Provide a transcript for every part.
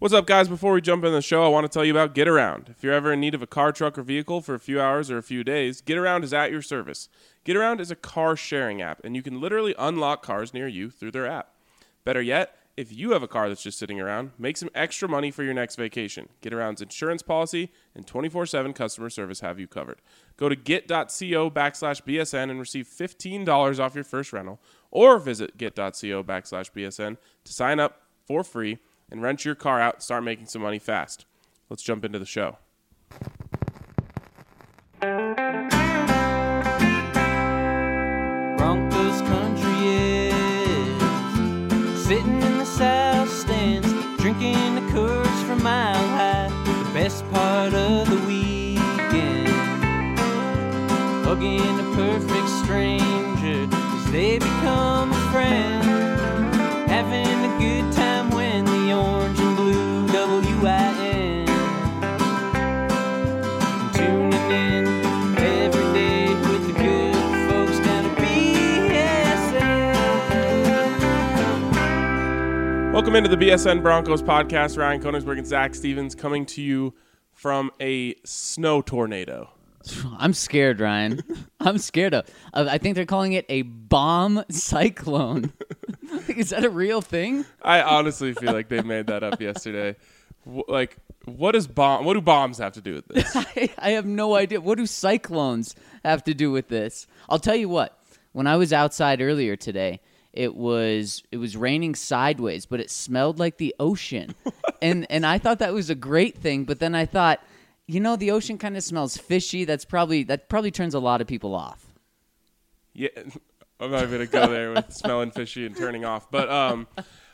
What's up, guys? Before we jump in the show, I want to tell you about Get Around. If you're ever in need of a car, truck, or vehicle for a few hours or a few days, Get Around is at your service. Get Around is a car sharing app, and you can literally unlock cars near you through their app. Better yet, if you have a car that's just sitting around, make some extra money for your next vacation. Get Around's insurance policy and 24/7 customer service have you covered. Go to get.co/BSN and receive $15 off your first rental, or visit get.co/BSN to sign up for free and rent your car out and start making some money fast. Let's jump into the show. Broncos country is sitting in the south stands, drinking the Coors from Mile High, the best part of the weekend. Hugging a perfect stranger as they become a friend, having a good time when the orange and blue WIN. Tuning in every day with the good folks down at BSN. Welcome into the BSN Broncos podcast. Ryan Koenigsberg and Zach Stevens coming to you from a snow tornado. I'm scared, Ryan. I'm scared of. I think they're calling it a bomb cyclone. Is that a real thing? I honestly feel like they made that up yesterday. What do bombs have to do with this? I have no idea. What do cyclones have to do with this? I'll tell you what. When I was outside earlier today, it was raining sideways, but it smelled like the ocean. and I thought that was a great thing, but then I thought, the ocean kind of smells fishy. That probably turns a lot of people off. Yeah, I'm not going to go there with smelling fishy and turning off. But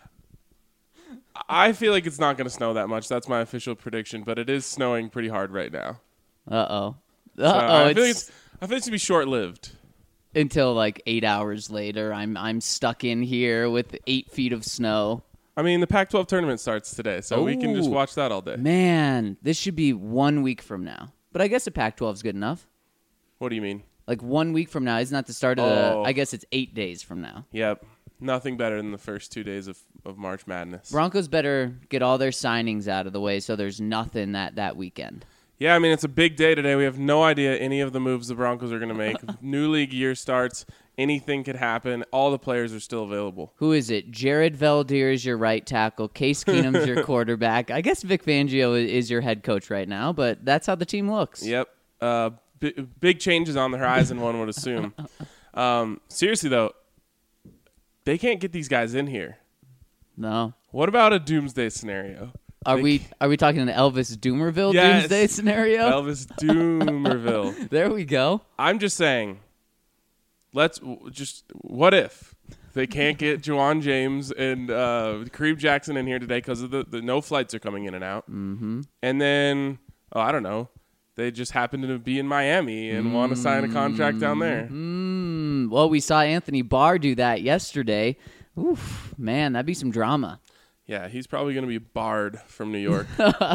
I feel like it's not going to snow that much. That's my official prediction. But it is snowing pretty hard right now. Uh-oh. I feel like it's going to be short-lived. Until like 8 hours later, I'm stuck in here with 8 feet of snow. I mean, the Pac-12 tournament starts today, so we can just watch that all day. Man, this should be 1 week from now. But I guess the Pac-12 is good enough. What do you mean? Like 1 week from now. Isn't that the start of the... I guess it's 8 days from now. Yep. Nothing better than the first 2 days of March Madness. Broncos better get all their signings out of the way so there's nothing that weekend. Yeah, I mean, it's a big day today. We have no idea any of the moves the Broncos are going to make. New league year starts. Anything could happen. All the players are still available. Who is it? Jared Veldheer is your right tackle. Case Keenum's your quarterback. I guess Vic Fangio is your head coach right now, but that's how the team looks. Yep. Big changes on the horizon, one would assume. Seriously, though, they can't get these guys in here. No. What about a doomsday scenario? Are we talking an Elvis Doomerville doomsday scenario? Elvis Doomerville. There we go. I'm just saying, what if they can't get Juwan James and Kareem Jackson in here today because of the no flights are coming in and out. Mm-hmm. And then, I don't know, they just happen to be in Miami and want to sign a contract down there. Well, we saw Anthony Barr do that yesterday. Oof, man, that'd be some drama. Yeah, he's probably going to be barred from New York.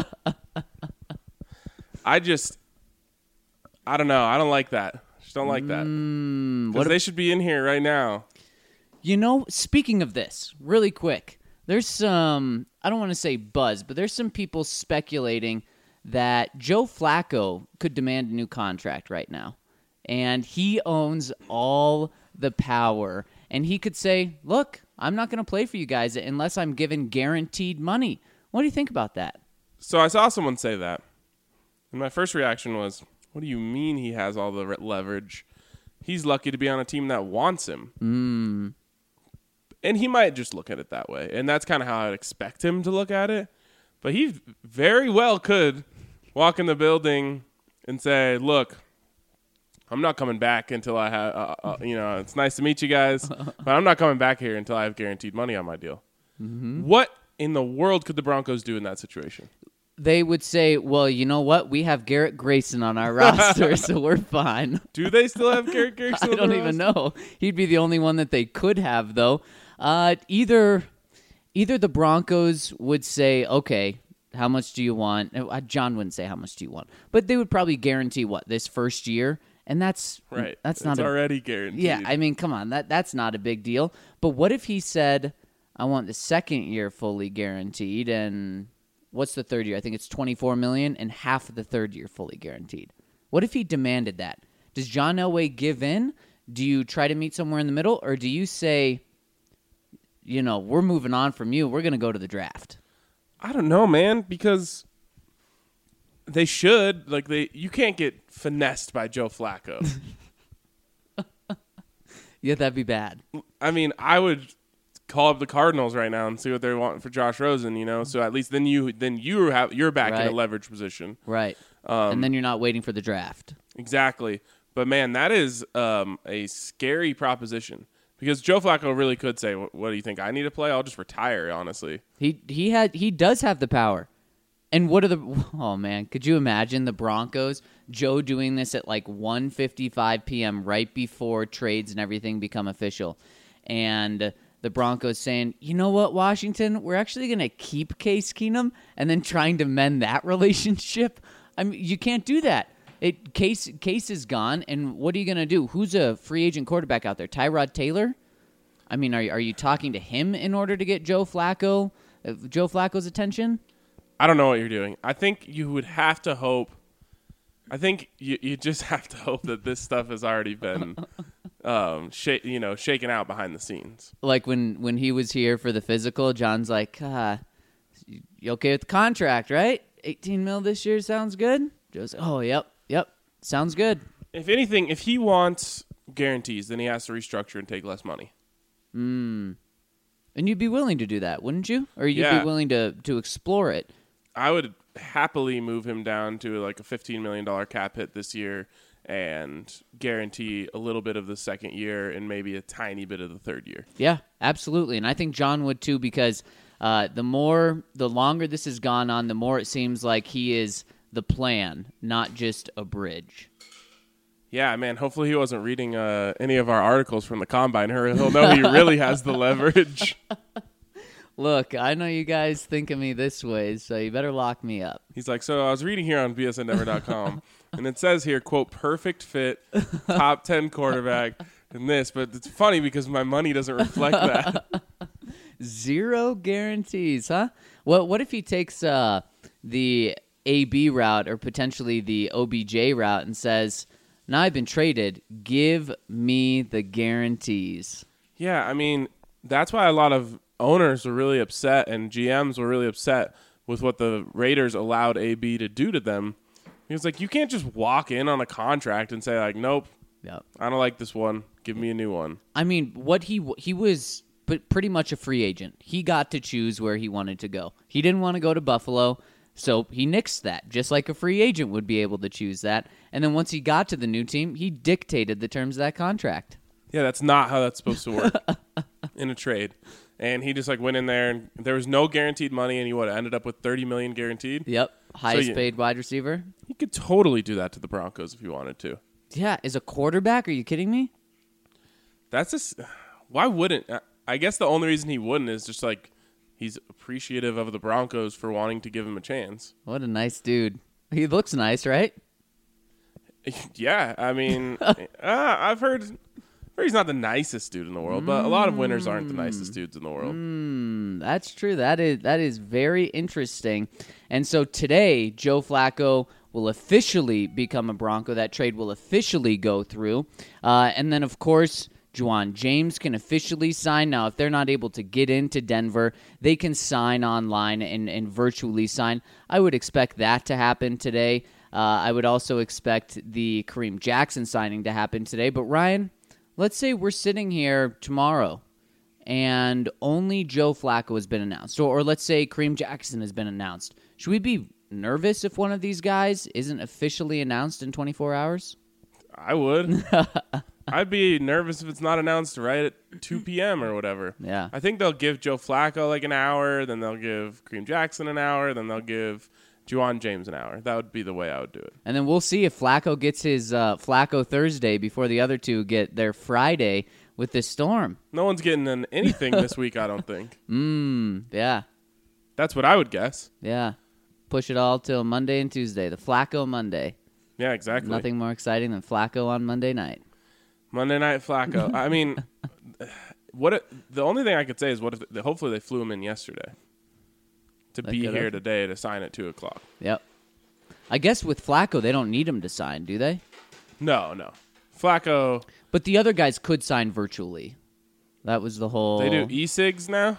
I don't know. I don't like that. Just don't like that. Because they should be in here right now. Speaking of this, really quick, there's some, I don't want to say buzz, but there's some people speculating that Joe Flacco could demand a new contract right now. And he owns all the power. And he could say, look, I'm not going to play for you guys unless I'm given guaranteed money. What do you think about that? So I saw someone say that. And my first reaction was, what do you mean he has all the leverage? He's lucky to be on a team that wants him. And he might just look at it that way. And that's kind of how I'd expect him to look at it. But he very well could walk in the building and say, look, I'm not coming back until I have, it's nice to meet you guys, but I'm not coming back here until I have guaranteed money on my deal. Mm-hmm. What in the world could the Broncos do in that situation? They would say, well, you know what? We have Garrett Grayson on our roster, so we're fine. Do they still have Garrett Grayson I don't even know. He'd be the only one that they could have, though. Either the Broncos would say, okay, how much do you want? John wouldn't say how much do you want, but they would probably guarantee this first year. And that's right. That's not already guaranteed. Yeah, I mean, come on, that's not a big deal. But what if he said, "I want the second year fully guaranteed," and what's the third year? I think it's $24 million, and half of the third year fully guaranteed. What if he demanded that? Does John Elway give in? Do you try to meet somewhere in the middle, or do you say, we're moving on from you. We're going to go to the draft? I don't know, man, because they should. You can't get finessed by Joe Flacco. Yeah, that'd be bad. I mean, I would call up the Cardinals right now and see what they want for Josh Rosen, so at least then you're back in a Right. leverage position. Right. And then you're not waiting for the draft. Exactly. But man, that is a scary proposition. Because Joe Flacco really could say, "What do you think? I need to play? I'll just retire." Honestly, He does have the power. And oh man, could you imagine the Broncos, Joe doing this at like 1:55 p.m. right before trades and everything become official, and the Broncos saying, "You know what, Washington, we're actually going to keep Case Keenum," and then trying to mend that relationship. I mean, you can't do that. Case is gone, and what are you going to do? Who's a free agent quarterback out there? Tyrod Taylor? I mean, are you talking to him in order to get Joe Flacco's attention? I don't know what you're doing. I think you would have to hope. I think you just have to hope that this stuff has already been, shaken out behind the scenes. Like when he was here for the physical, John's like, "You okay with the contract, right? 18 mil this year sounds good." Joe's like, "Oh, yep, sounds good." If anything, if he wants guarantees, then he has to restructure and take less money. And you'd be willing to do that, wouldn't you? Or you'd Yeah. be willing to explore it? I would happily move him down to like a $15 million cap hit this year and guarantee a little bit of the second year and maybe a tiny bit of the third year. Yeah, absolutely. And I think John would too, because the longer this has gone on, the more it seems like he is the plan, not just a bridge. Yeah, man, hopefully he wasn't reading any of our articles from the Combine. He'll know he really has the leverage. Look, I know you guys think of me this way, so you better lock me up. He's like, so I was reading here on bsndenver.com, and it says here, quote, perfect fit, top 10 quarterback, and this. But it's funny because my money doesn't reflect that. 0 guarantees, huh? What if he takes the AB route or potentially the OBJ route and says, "Now I've been traded, give me the guarantees"? Yeah, I mean, that's why a lot of owners were really upset and GMs were really upset with what the Raiders allowed AB to do to them. Because, you can't just walk in on a contract and say, nope, Yep. I don't like this one. Give me a new one. I mean, what he was pretty much a free agent. He got to choose where he wanted to go. He didn't want to go to Buffalo, so he nixed that, just like a free agent would be able to choose that. And then once he got to the new team, he dictated the terms of that contract. Yeah, that's not how that's supposed to work in a trade. And he just went in there, and there was no guaranteed money, and he ended up with $30 million guaranteed. Yep, highest paid wide receiver. He could totally do that to the Broncos if he wanted to. Yeah, as a quarterback, are you kidding me? Why wouldn't? I guess the only reason he wouldn't is just he's appreciative of the Broncos for wanting to give him a chance. What a nice dude. He looks nice, right? Yeah, I mean, I've heard he's not the nicest dude in the world, but a lot of winners aren't the nicest dudes in the world. That's true. That is very interesting. And so today, Joe Flacco will officially become a Bronco. That trade will officially go through. And then, of course, Juwan James can officially sign. Now, if they're not able to get into Denver, they can sign online and virtually sign. I would expect that to happen today. I would also expect the Kareem Jackson signing to happen today. But, Ryan, let's say we're sitting here tomorrow and only Joe Flacco has been announced. Or let's say Kareem Jackson has been announced. Should we be nervous if one of these guys isn't officially announced in 24 hours? I would. I'd be nervous if it's not announced right at 2 p.m. or whatever. Yeah. I think they'll give Joe Flacco an hour, then they'll give Kareem Jackson an hour, then they'll give Juwan James an hour. That would be the way I would do it. And then we'll see if Flacco gets his Flacco Thursday before the other two get their Friday with this storm. No one's getting anything this week, I don't think. Yeah. That's what I would guess. Yeah. Push it all till Monday and Tuesday. The Flacco Monday. Yeah, exactly. Nothing more exciting than Flacco on Monday night. Monday Night Flacco. I mean, the only thing I could say is hopefully they flew him in yesterday. to be here today to sign at 2:00. Yep. I guess with Flacco, they don't need him to sign, do they? No. Flacco. But the other guys could sign virtually. That was the whole... They do e-cigs now?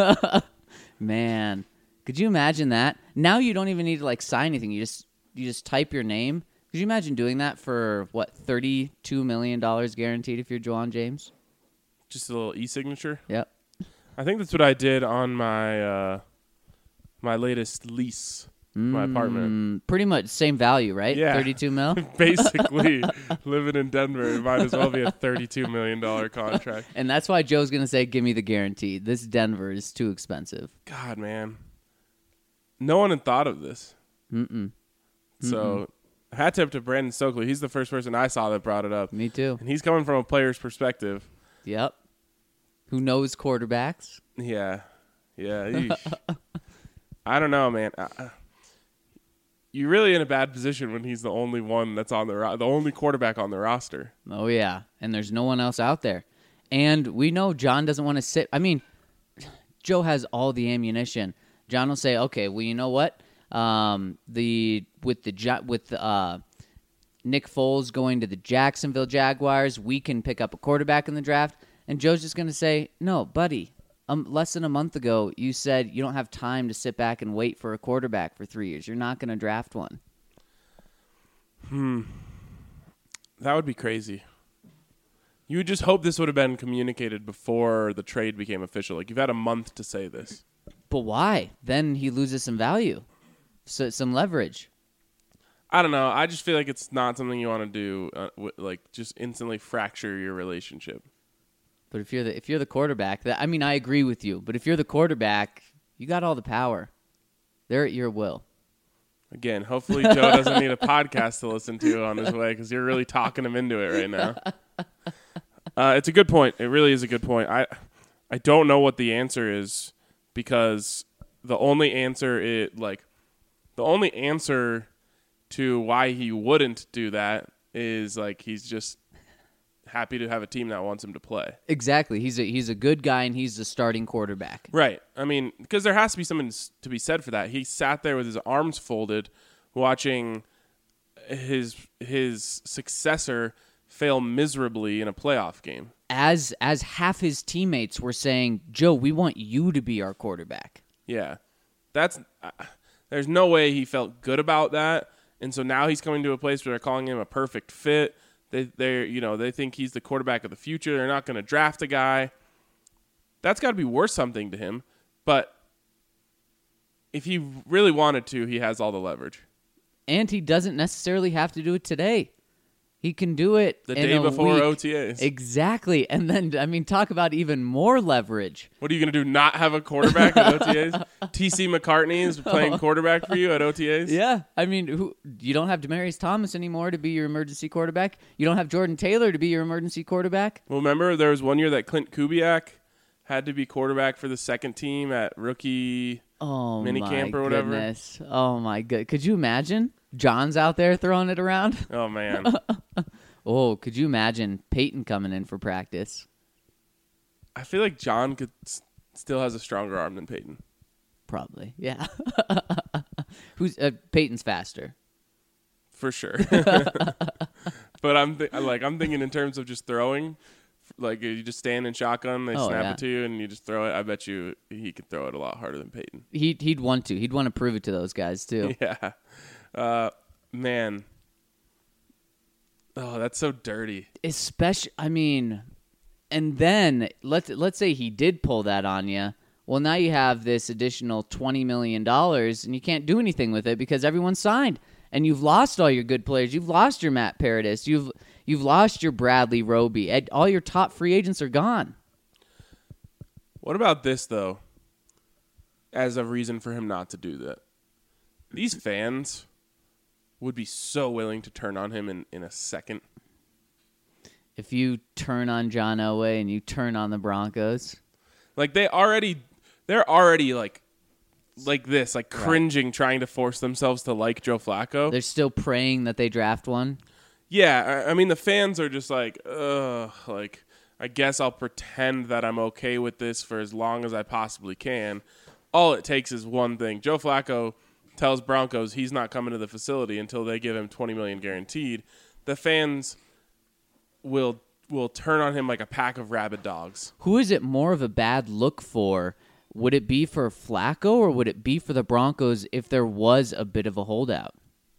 Man, could you imagine that? Now you don't even need to like sign anything. You just type your name. Could you imagine doing that for what, $32 million guaranteed if you're Juwan James? Just a little e-signature? Yep. I think that's what I did on my my latest lease, my apartment. Pretty much same value, right? Yeah. 32 mil? Basically, living in Denver, it might as well be a $32 million contract. And that's why Joe's going to say, give me the guarantee. This Denver is too expensive. God, man. No one had thought of this. So, hat tip to Brandon Stokely. He's the first person I saw that brought it up. Me too. And he's coming from a player's perspective. Yep. Who knows quarterbacks? Yeah. I don't know, man. You're really in a bad position when he's the only one that's on the only quarterback on the roster. Oh, yeah. And there's no one else out there. And we know John doesn't want to sit. I mean, Joe has all the ammunition. John will say, okay, well, you know what? With Nick Foles going to the Jacksonville Jaguars, we can pick up a quarterback in the draft. And Joe's just going to say, no, buddy. Less than a month ago, you said you don't have time to sit back and wait for a quarterback for 3 years. You're not going to draft one. That would be crazy. You would just hope this would have been communicated before the trade became official. Like, you've had a month to say this. But why? Then he loses some value, some leverage. I don't know. I just feel like it's not something you want to do, like just instantly fracture your relationship. But if you're the quarterback, I agree with you. But if you're the quarterback, you got all the power. They're at your will. Again, hopefully Joe doesn't need a podcast to listen to on his way because you're really talking him into it right now. It's a good point. It really is a good point. I don't know what the answer is because the only answer to why he wouldn't do that is like he's just happy to have a team that wants him to play. Exactly. He's a good guy, and he's the starting quarterback. Right. I mean, because there has to be something to be said for that. He sat there with his arms folded watching his successor fail miserably in a playoff game. As half his teammates were saying, Joe, we want you to be our quarterback. Yeah. There's no way he felt good about that. And so now he's coming to a place where they're calling him a perfect fit. They think he's the quarterback of the future. They're not going to draft a guy. That's got to be worth something to him. But if he really wanted to, he has all the leverage. And he doesn't necessarily have to do it today. He can do it the in day a before week. OTAs. Exactly. And then, talk about even more leverage. What are you going to do, not have a quarterback at OTAs? T.C. McCartney is playing quarterback for you at OTAs? Yeah. You don't have Demaryius Thomas anymore to be your emergency quarterback. You don't have Jordan Taylor to be your emergency quarterback. Well, remember there was one year that Clint Kubiak had to be quarterback for the second team at rookie minicamp or whatever. Goodness. Oh, my goodness. Could you imagine? John's out there throwing it around. Oh, man. Oh, could you imagine Peyton coming in for practice? I feel like John still has a stronger arm than Peyton. Probably, yeah. Peyton's faster. For sure. But I'm thinking in terms of just throwing. Like, you just stand in shotgun, they snap it to you, and you just throw it. I bet you he could throw it a lot harder than Peyton. He'd want to. He'd want to prove it to those guys, too. Yeah. Man. Oh, that's so dirty. Especially, and then let's say he did pull that on you. Well, now you have this additional $20 million, and you can't do anything with it because everyone's signed. And you've lost all your good players. You've lost your Matt Paradis. You've lost your Bradley Roby. All your top free agents are gone. What about this, though, as a reason for him not to do that? These fans would be so willing to turn on him in a second. If you turn on John Elway and you turn on the Broncos. Like, they're already like this, like cringing, trying to force themselves to like Joe Flacco. They're still praying that they draft one. Yeah, I mean, the fans are just like, ugh, like, I guess I'll pretend that I'm okay with this for as long as I possibly can. all it takes is one thing. Joe Flacco tells Broncos he's not coming to the facility until they give him $20 million guaranteed. The fans will turn on him like a pack of rabid dogs. Who is it more of a bad look for? Would it be for Flacco or would it be for the Broncos if there was a bit of a holdout?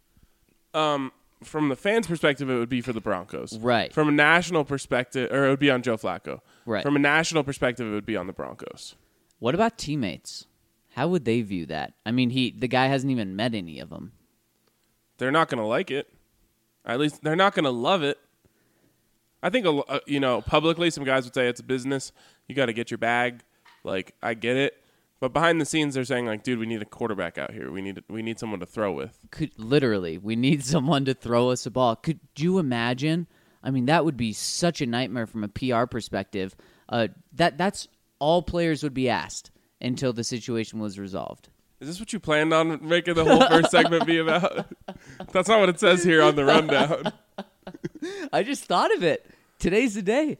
From the fans' perspective, it would be for the Broncos. Right. From a national perspective, or it would be on Joe Flacco. Right. From a national perspective, it would be on the Broncos. What about teammates? How would they view that? I mean, the guy hasn't even met any of them. They're not going to like it. At least they're not going to love it. I think, publicly some guys would say it's a business. You got to get your bag. Like, I get it. But behind the scenes, they're saying, like, dude, we need a quarterback out here. We need someone to throw with. We need someone to throw us a ball. Could you imagine? I mean, that would be such a nightmare from a PR perspective. That's all players would be asked until the situation was resolved. Is this what you planned on making the whole first segment be about? That's not what it says here on the rundown. I just thought of it. Today's the day.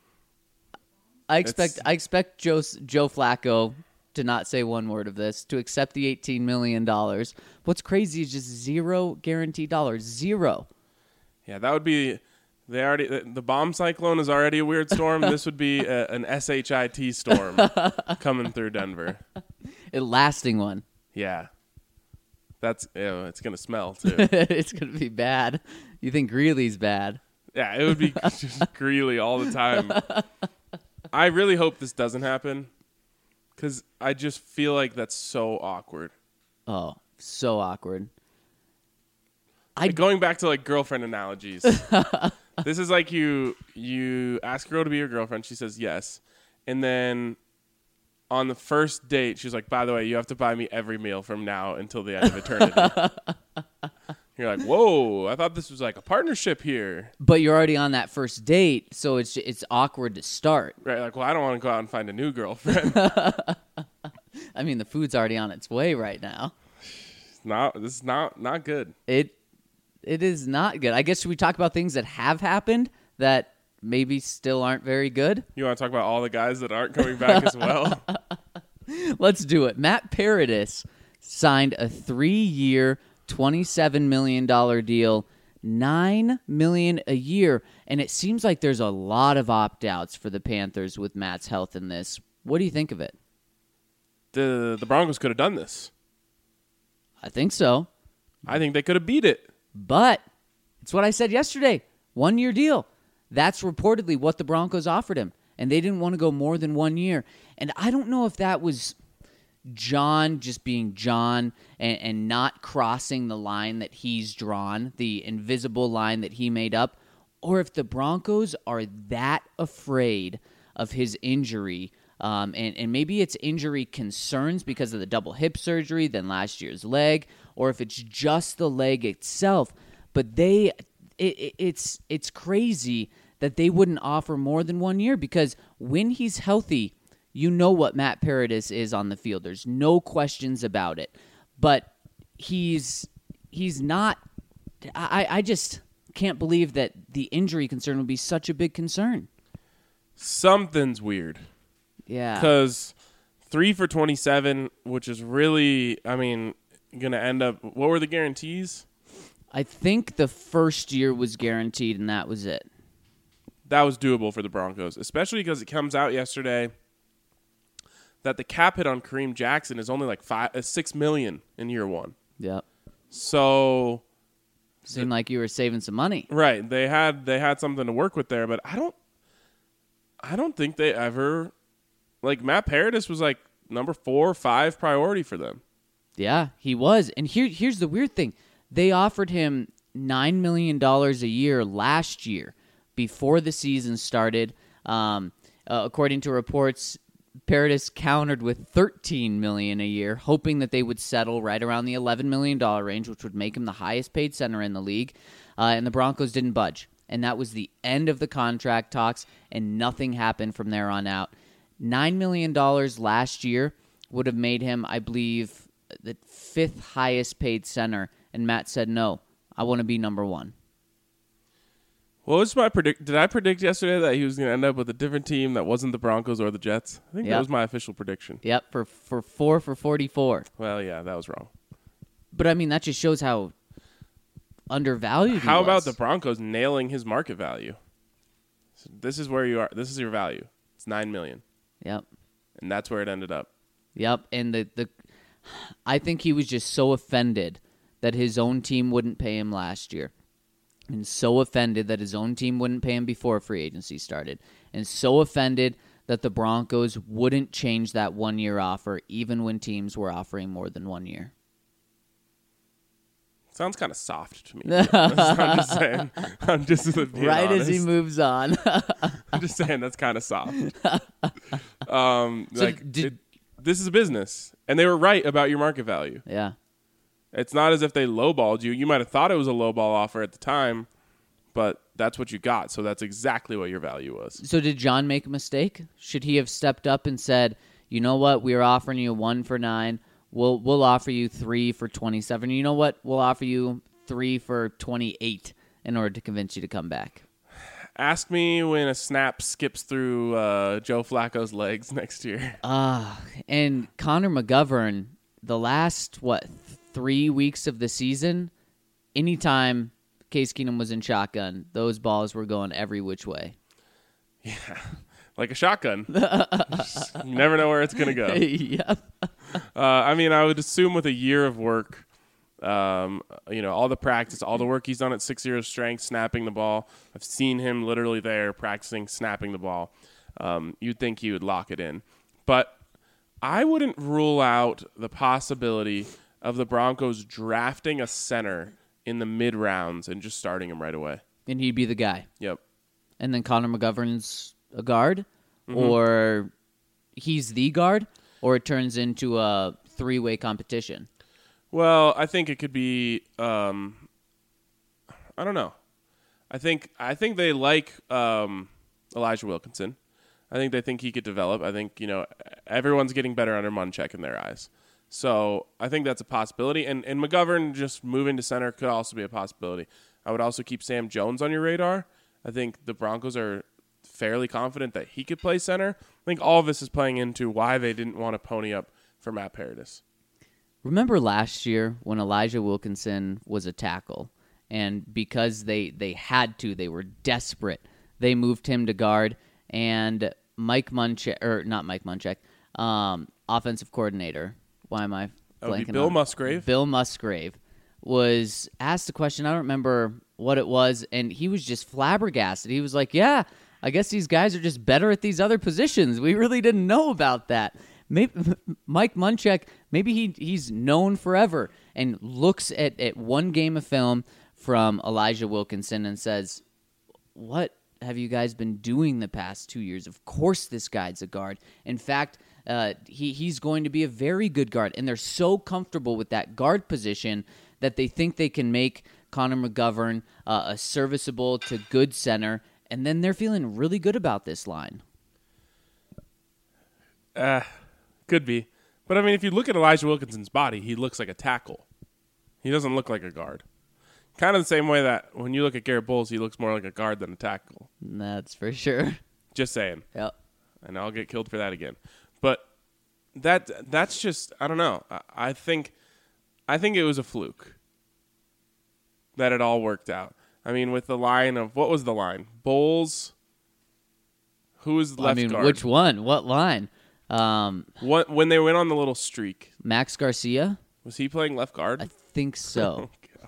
I expect Joe Flacco to not say one word of this, to accept the $18 million. What's crazy is just zero guaranteed dollars. Zero. Yeah, that would be... The bomb cyclone is already a weird storm. This would be an SHIT storm coming through Denver. A lasting one. Yeah. It's going to smell, too. It's going to be bad. You think Greeley's bad. Yeah, it would be just Greeley all the time. I really hope this doesn't happen because I just feel like that's so awkward. Oh, so awkward. Going back to, like, girlfriend analogies. This is like you ask a girl to be your girlfriend. She says yes. And then on the first date, she's like, by the way, you have to buy me every meal from now until the end of eternity. You're like, whoa, I thought this was like a partnership here. But you're already on that first date, so it's awkward to start. Right, like, well, I don't want to go out and find a new girlfriend. I mean, the food's already on its way right now. This is not good. It is not good. I guess should we talk about things that have happened that maybe still aren't very good? You want to talk about all the guys that aren't coming back as well? Let's do it. Matt Paradis signed a 3-year, $27 million deal, $9 million a year, and it seems like there's a lot of opt-outs for the Panthers with Matt's health in this. What do you think of it? The Broncos could have done this. I think so. I think they could have beat it. But it's what I said yesterday. 1-year deal. That's reportedly what the Broncos offered him. And they didn't want to go more than 1 year. And I don't know if that was John just being John and not crossing the line that he's drawn, the invisible line that he made up, or if the Broncos are that afraid of his injury. And maybe it's injury concerns because of the double hip surgery, then last year's leg, or if it's just the leg itself. But it's crazy that they wouldn't offer more than 1 year because when he's healthy, you know what Matt Paradis is on the field. There's no questions about it. But he's not. I just can't believe that the injury concern would be such a big concern. Something's weird. Yeah. Because 3 for 27, which is really, going to end up, what were the guarantees? I think the first year was guaranteed, and that was it. That was doable for the Broncos, especially because it comes out yesterday that the cap hit on Kareem Jackson is only like $6 million in year one. Yep. So seemed like you were saving some money. Right. They had something to work with there, but I don't think they ever, like, Matt Paradis was like number 4 or 5 priority for them. Yeah, he was. And here's the weird thing. They offered him $9 million a year last year before the season started. According to reports, Paradis countered with $13 million a year, hoping that they would settle right around the $11 million range, which would make him the highest paid center in the league. And the Broncos didn't budge. And that was the end of the contract talks, and nothing happened from there on out. $9 million last year would have made him, I believe, the 5th highest paid center. And Matt said, no, I want to be number 1. What was my predict? Did I predict yesterday that he was going to end up with a different team that wasn't the Broncos or the Jets? I think that was my official prediction. Yep, for 4 for 44. Well, yeah, that was wrong. But I mean, that just shows how undervalued he How was. about the Broncos nailing his market value? So this is where you are. This is your value. It's $9 million, Yep. and that's where it ended up. Yep, and I think he was just so offended that his own team wouldn't pay him last year. And so offended that his own team wouldn't pay him before free agency started. And so offended that the Broncos wouldn't change that 1-year offer even when teams were offering more than 1 year. Sounds kind of soft to me. I'm just saying. I'm just being Right honest. as he moves on. I'm just saying that's kind of soft. Did- This is a business, and they were right about your market value. Yeah. It's not as if they lowballed you. You might have thought it was a lowball offer at the time, but that's what you got. So that's exactly what your value was. So did John make a mistake? Should he have stepped up and said, you know what, we are offering you 1 for 9. We'll offer you 3 for 27. You know what? We'll offer you 3 for 28 in order to convince you to come back. Ask me when a snap skips through Joe Flacco's legs next year. And Connor McGovern, the last, 3 weeks of the season, anytime Case Keenum was in shotgun, those balls were going every which way. Yeah, like a shotgun. You never know where it's going to go. Yep. I mean, I would assume with a year of work, all the practice, all the work he's done at 6 years strength, snapping the ball. I've seen him literally there practicing snapping the ball. You'd think he would lock it in. But I wouldn't rule out the possibility of the Broncos drafting a center in the mid-rounds and just starting him right away. And he'd be the guy. Yep. And then Connor McGovern's a guard, or he's the guard, or it turns into a 3-way competition. Well, I think it could be. I don't know. I think they like Elijah Wilkinson. I think they think he could develop. I think everyone's getting better under Munchak in their eyes. So I think that's a possibility. And McGovern just moving to center could also be a possibility. I would also keep Sam Jones on your radar. I think the Broncos are fairly confident that he could play center. I think all of this is playing into why they didn't want to pony up for Matt Paradis. Remember last year when Elijah Wilkinson was a tackle, and because they had to, they were desperate, they moved him to guard, and Mike Munchak, or not Mike Munchak, offensive coordinator. Why am I That would be blanking Bill on? Musgrave. Bill Musgrave was asked a question. I don't remember what it was, and he was just flabbergasted. He was like, yeah, I guess these guys are just better at these other positions. We really didn't know about that. Maybe Mike Munchak, maybe he's known forever and looks at one game of film from Elijah Wilkinson and says, what have you guys been doing the past 2 years? Of course this guy's a guard. In fact, he's going to be a very good guard. And they're so comfortable with that guard position that they think they can make Connor McGovern a serviceable to good center. And then they're feeling really good about this line. Could be. But, I mean, if you look at Elijah Wilkinson's body, he looks like a tackle. He doesn't look like a guard. Kind of the same way that when you look at Garrett Bowles, he looks more like a guard than a tackle. That's for sure. Just saying. Yep. And I'll get killed for that again. But that's just, I don't know. I think it was a fluke that it all worked out. I mean, with the line of, what was the line? Bowles, who was left guard? Which one? What line? When they went on the little streak, Max Garcia? was he playing left guard? I think so.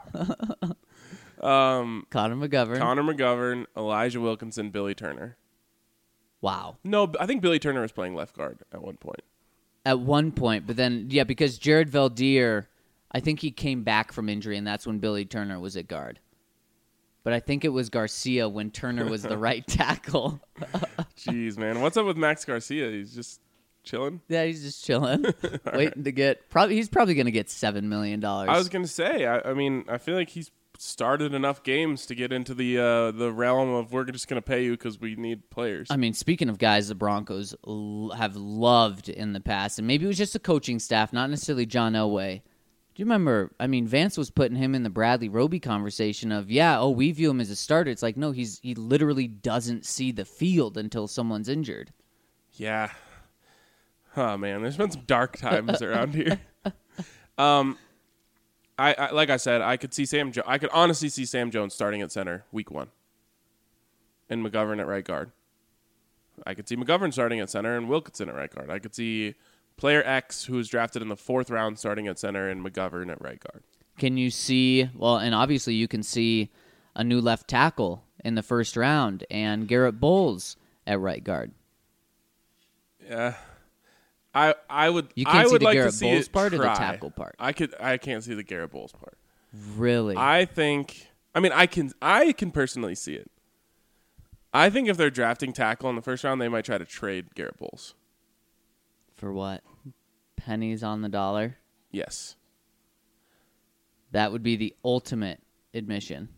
Oh, Connor McGovern. Connor McGovern, Elijah Wilkinson, Billy Turner. Wow. No, I think Billy Turner was playing left guard at one point. At one point, but then, yeah, because Jared Valdir, I think he came back from injury, and that's when Billy Turner was at guard. But I think it was Garcia when Turner was the right tackle. Jeez, man. What's up with Max Garcia? He's just chilling? Yeah, he's just chilling, waiting to get. He's probably going to get $7 million. I was going to say, I mean, I feel like he's started enough games to get into the realm of we're just going to pay you because we need players. I mean, speaking of guys the Broncos have loved in the past, and maybe it was just the coaching staff, not necessarily John Elway, Do you remember? I mean, Vance was putting him in the Bradley Roby conversation of, we view him as a starter. It's like, no, he literally doesn't see the field until someone's injured. Yeah. Oh man, there's been some dark times around here. I like I said, I could see I could honestly see Sam Jones starting at center week 1, and McGovern at right guard. I could see McGovern starting at center and Wilkinson at right guard. I could see player X, who was drafted in the 4th round, starting at center and McGovern at right guard. Can you see? Well, and obviously you can see a new left tackle in the 1st round and Garrett Bowles at right guard. Yeah. I would. You can't I see would the like Garrett to see Bowles it part or the try. tackle part? I can't see the Garrett Bowles part. Really? I think. I mean, I can personally see it. I think if they're drafting tackle in the 1st round, they might try to trade Garrett Bowles. For what? Pennies on the dollar? Yes. That would be the ultimate admission.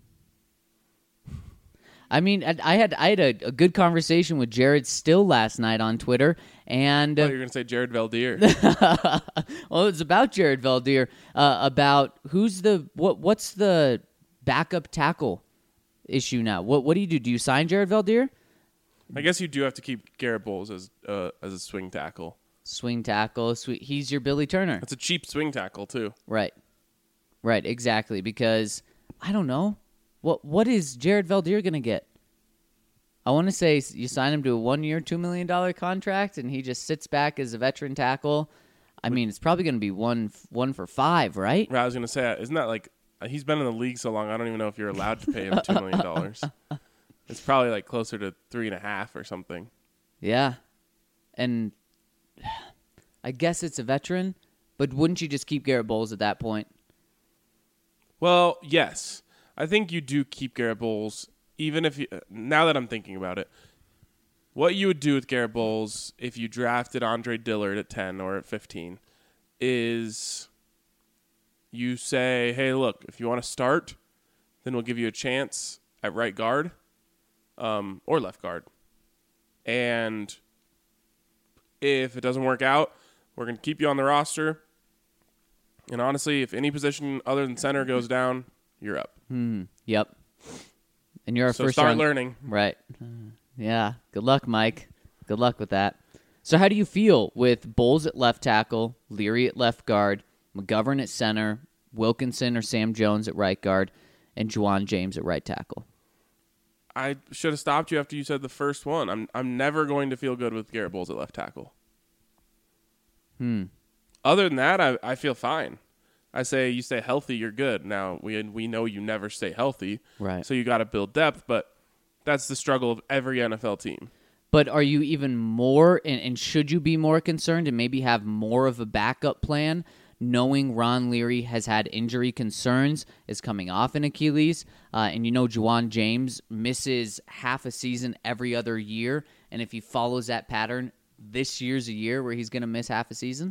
I mean, I had a good conversation with Jared Still last night on Twitter, and You're going to say Jared Valdir. well, it's about Jared Valdir, about what's the backup tackle issue now? What do you do? Do you sign Jared Valdir? I guess you do have to keep Garrett Bowles as a swing tackle. Swing tackle, he's your Billy Turner. It's a cheap swing tackle too. Right, exactly. Because I don't know. What is Jared Valdir going to get? I want to say you sign him to a 1-year, $2 million contract, and he just sits back as a veteran tackle. I mean, it's probably going to be one for 5, right? I was going to say, isn't that like he's been in the league so long? I don't even know if you're allowed to pay him $2 million. It's probably like closer to 3.5 or something. Yeah, and I guess it's a veteran, but wouldn't you just keep Garrett Bowles at that point? Well, yes. I think you do keep Garrett Bowles, even if now that I'm thinking about it, what you would do with Garrett Bowles if you drafted Andre Dillard at 10 or at 15 is you say, hey, look, if you want to start, then we'll give you a chance at right guard or left guard. And if it doesn't work out, we're going to keep you on the roster. And honestly, if any position other than center goes down, you're up. Yep. And you're our So first start round. learning. Right. Yeah. Good luck, Mike. Good luck with that. So how do you feel with Bowles at left tackle, Leary at left guard, McGovern at center, Wilkinson or Sam Jones at right guard, and Juwan James at right tackle? I should have stopped you after you said the first one. I'm never going to feel good with Garrett Bowles at left tackle. Other than that, I feel fine. I say you stay healthy, you're good. Now, we know you never stay healthy, Right. so you got to build depth, but that's the struggle of every NFL team. But are you even more, and should you be more concerned and maybe have more of a backup plan, knowing Ron Leary has had injury concerns, is coming off an Achilles, and you know Juwan James misses half a season every other year, and if he follows that pattern, this year's a year where he's going to miss half a season?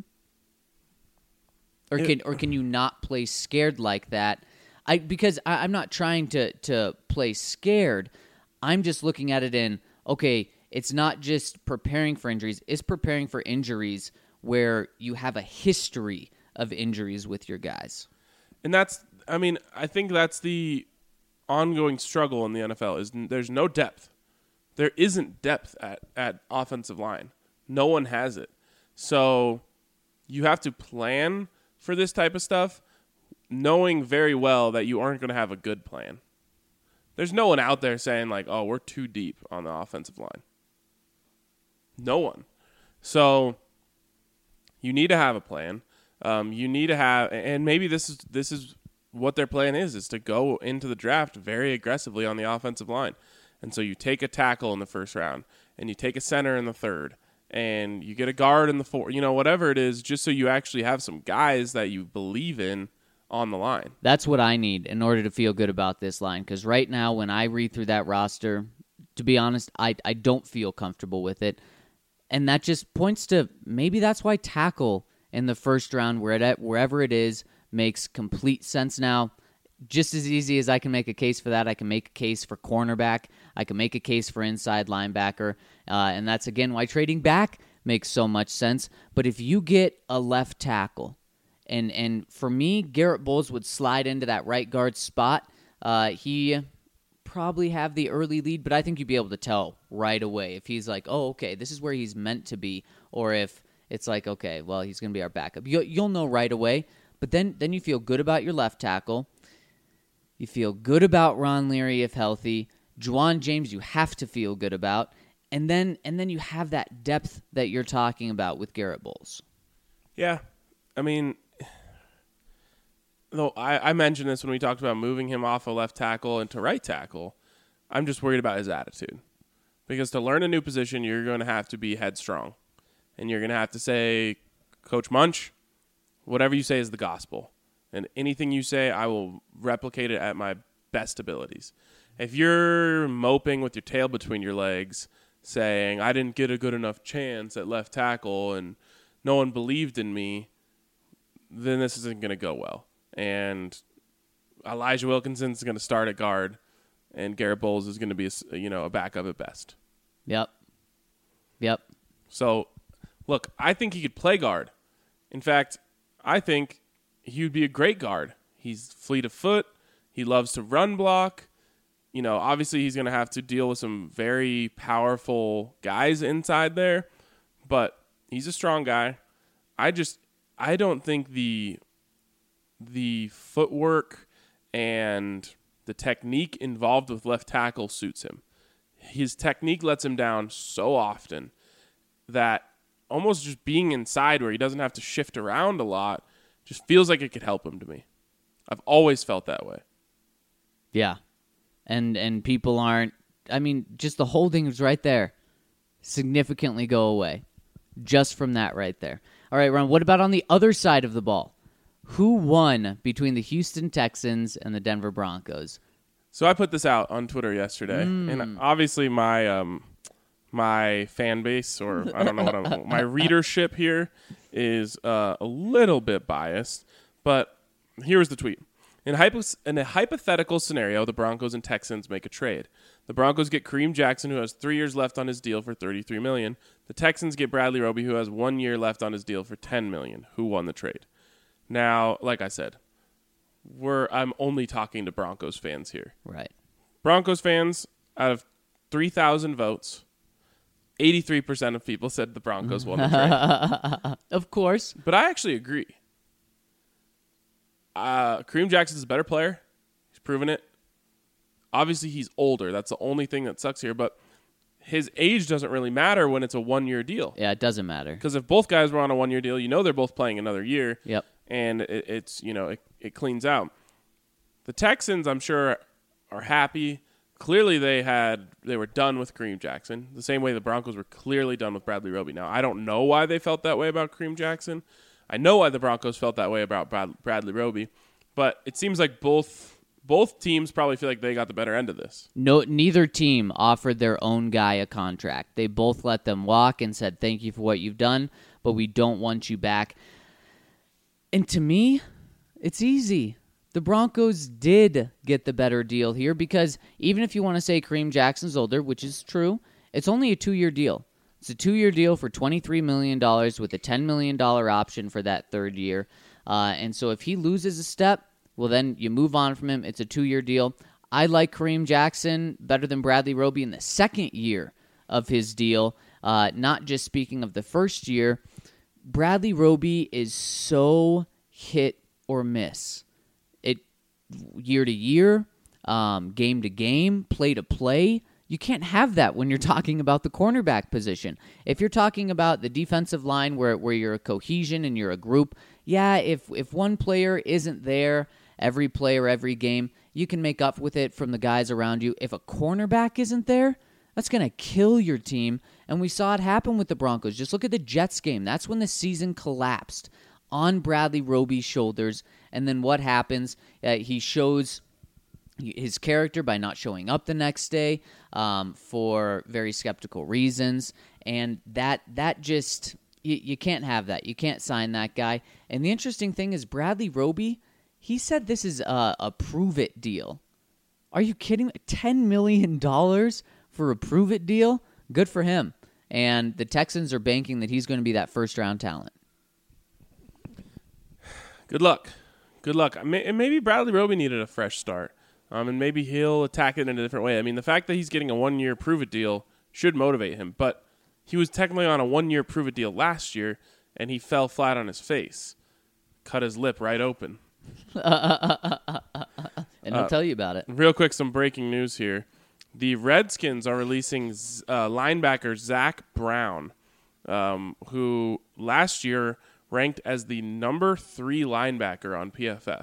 Or can you not play scared like that? Because I'm not trying to play scared. I'm just looking at it in, okay, it's not just preparing for injuries. It's preparing for injuries where you have a history of injuries with your guys. And I think that's the ongoing struggle in the NFL is there's no depth. There isn't depth at offensive line. No one has it. So you have to plan for this type of stuff, knowing very well that you aren't going to have a good plan. There's no one out there saying like, oh, we're too deep on the offensive line. No one. So you need to have a plan. You need to have, and maybe this is what their plan is to go into the draft very aggressively on the offensive line. And so you take a tackle in the 1st round, and you take a center in the 3rd, and you get a guard in the 4th, whatever it is, just so you actually have some guys that you believe in on the line. That's what I need in order to feel good about this line, because right now when I read through that roster, to be honest, I don't feel comfortable with it. And that just points to maybe that's why tackle in the 1st round, wherever it is, makes complete sense now. Just as easy as I can make a case for that, I can make a case for cornerback. I can make a case for inside linebacker. And that's, again, why trading back makes so much sense. But if you get a left tackle And for me, Garrett Bowles would slide into that right guard spot. He probably have the early lead, but I think you'd be able to tell right away if he's like, oh, okay, this is where he's meant to be, or if it's like, okay, well, he's going to be our backup. You'll know right away, but then you feel good about your left tackle. You feel good about Ron Leary if healthy. Juwan James you have to feel good about. And then you have that depth that you're talking about with Garrett Bowles. Yeah. I mean, though I mentioned this when we talked about moving him off of left tackle into right tackle. I'm just worried about his attitude. Because to learn a new position, you're going to have to be headstrong. And you're going to have to say, Coach Munch, whatever you say is the gospel. And anything you say, I will replicate it at my best abilities. If you're moping with your tail between your legs, saying, I didn't get a good enough chance at left tackle and no one believed in me, then this isn't going to go well. And Elijah Wilkinson's going to start at guard, and Garrett Bowles is going to be a backup at best. Yep. So, look, I think he could play guard. In fact, I think he would be a great guard. He's fleet of foot. He loves to run block. Obviously he's going to have to deal with some very powerful guys inside there, but he's a strong guy. I don't think the footwork and the technique involved with left tackle suits him. His technique lets him down so often that almost just being inside where he doesn't have to shift around a lot just feels like it could help him to me. I've always felt that way. Yeah. And people aren't, just the holding is right there. Significantly go away. Just from that right there. All right, Ron, what about on the other side of the ball? Who won between the Houston Texans and the Denver Broncos? So I put this out on Twitter yesterday, and obviously my fan base, or I don't know my readership here is a little bit biased, but here's the tweet. In a hypothetical scenario, the Broncos and Texans make a trade. The Broncos get Kareem Jackson, who has 3 years left on his deal, for $33 million. The Texans get Bradley Roby, who has 1 year left on his deal, for $10 million. Who won the trade? Now, like I said, I'm only talking to Broncos fans here. Right. Broncos fans, out of 3,000 votes, 83% of people said the Broncos won the trade. Of course. But I actually agree. Kareem Jackson's a better player. He's proven it. Obviously, he's older. That's the only thing that sucks here. But his age doesn't really matter when it's a 1 year deal. Yeah, it doesn't matter. Because if both guys were on a 1 year deal, they're both playing another year. Yep. And it cleans out. The Texans, I'm sure, are happy. Clearly, they were done with Kareem Jackson, the same way the Broncos were clearly done with Bradley Roby. Now, I don't know why they felt that way about Kareem Jackson. I know why the Broncos felt that way about Bradley Roby, but it seems like both teams probably feel like they got the better end of this. No, neither team offered their own guy a contract. They both let them walk and said, thank you for what you've done, but we don't want you back. And to me, it's easy. The Broncos did get the better deal here because even if you want to say Kareem Jackson's older, which is true, it's only a 2 year deal. It's a 2 year deal for $23 million with a $10 million option for that third year. And so if he loses a step, well, then you move on from him. It's a 2 year deal. I like Kareem Jackson better than Bradley Roby in the second year of his deal. Not just speaking of the first year. Bradley Roby is so hit or miss. Year to year, game to game, play to play. You can't have that when you're talking about the cornerback position. If you're talking about the defensive line where you're a cohesion and you're a group, yeah, if one player isn't there every play or every game, you can make up with it from the guys around you. If a cornerback isn't there, that's going to kill your team. And we saw it happen with the Broncos. Just look at the Jets game. That's when the season collapsed on Bradley Roby's shoulders. And then what happens? He shows his character by not showing up the next day for very skeptical reasons. And that just, you can't have that. You can't sign that guy. And the interesting thing is Bradley Roby, he said this is a prove-it deal. Are you kidding me? $10 million for a prove-it deal? Good for him. And the Texans are banking that he's going to be that first-round talent. Good luck. Good luck. And maybe Bradley Roby needed a fresh start. And maybe he'll attack it in a different way. I mean, the fact that he's getting a 1-year prove-it deal should motivate him. But he was technically on a 1-year prove-it deal last year, and he fell flat on his face. Cut his lip right open. And I'll tell you about it. Real quick, some breaking news here. The Redskins are releasing linebacker Zach Brown, who last year ranked as the number 3 linebacker on PFF.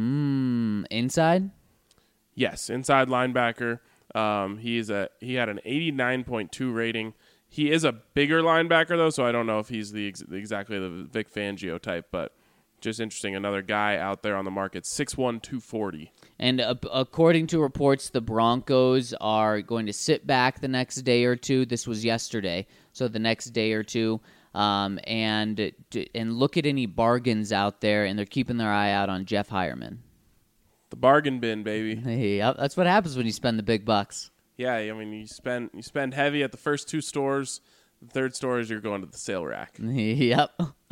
Inside? Yes, inside linebacker. He had an 89.2 rating. He is a bigger linebacker, though, so I don't know if he's exactly the Vic Fangio type, but just interesting. Another guy out there on the market, 6'1", 240. And according to reports, the Broncos are going to sit back the next day or two. This was yesterday, so the next day or two, and look at any bargains out there, and they're keeping their eye out on Jeff Hireman. The bargain bin, baby. Hey, that's what happens when you spend the big bucks. Yeah, I mean, you spend heavy at the first 2 stores. The third store is you're going to the sale rack. Yep.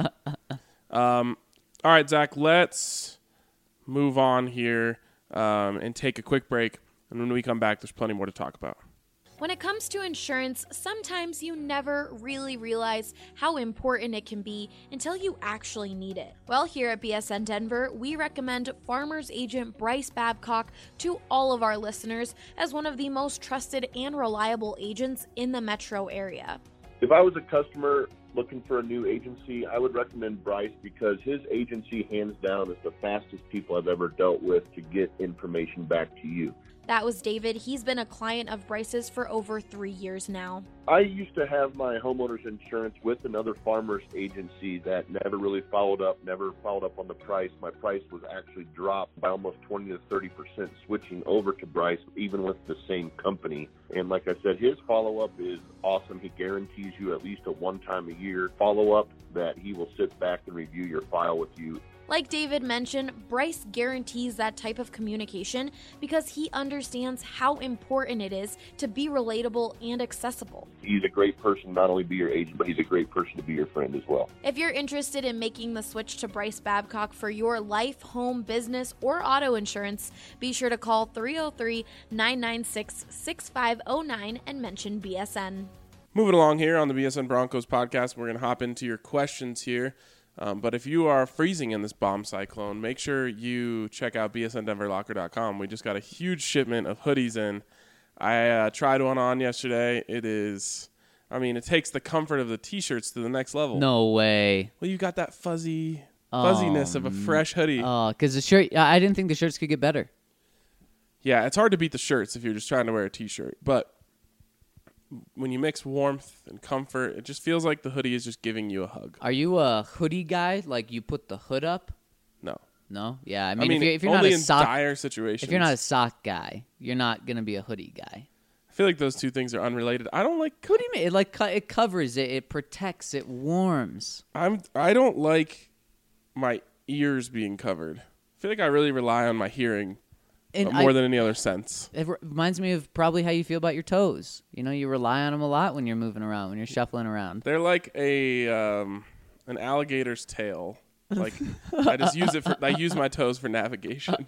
All right, Zach, let's move on here and take a quick break. And when we come back, there's plenty more to talk about. When it comes to insurance, sometimes you never really realize how important it can be until you actually need it. Well, here at BSN Denver, we recommend Farmers Agent Bryce Babcock to all of our listeners as one of the most trusted and reliable agents in the metro area. If I was a customer looking for a new agency, I would recommend Bryce because his agency, hands down, is the fastest people I've ever dealt with to get information back to you. That was David. He's been a client of Bryce's for over 3 years now. I used to have my homeowner's insurance with another farmer's agency that never really followed up on the price. My price was actually dropped by almost 20 to 30% switching over to Bryce, even with the same company. And like I said, his follow-up is awesome. He guarantees you at least a one-time-a-year follow-up that he will sit back and review your file with you. Like David mentioned, Bryce guarantees that type of communication because he understands how important it is to be relatable and accessible. He's a great person, not only be your agent, but he's a great person to be your friend as well. If you're interested in making the switch to Bryce Babcock for your life, home, business, or auto insurance, be sure to call 303-996-6509 and mention BSN. Moving along here on the BSN Broncos podcast, we're going to hop into your questions here. But if you are freezing in this bomb cyclone, make sure you check out bsndenverlocker.com. We just got a huge shipment of hoodies in. I tried one on yesterday. It takes the comfort of the T-shirts to the next level. No way. Well, you got that fuzziness of a fresh hoodie. Oh, because the shirt, I didn't think the shirts could get better. Yeah, it's hard to beat the shirts if you're just trying to wear a T-shirt. But when you mix warmth and comfort, it just feels like the hoodie is just giving you a hug. Are you a hoodie guy? Like you put the hood up? No. No? Yeah. I mean if you're only not a sock, dire situations. if you're not a sock guy, you're not going to be a hoodie guy. I feel like those two things are unrelated. I don't like. What do you mean? It covers it. It protects. It warms. I don't like my ears being covered. I feel like I really rely on my hearing more than any other sense. It reminds me of probably how you feel about your toes. You know, you rely on them a lot when you're moving around, when you're shuffling around. They're like an alligator's tail. Like I just use my toes for navigation.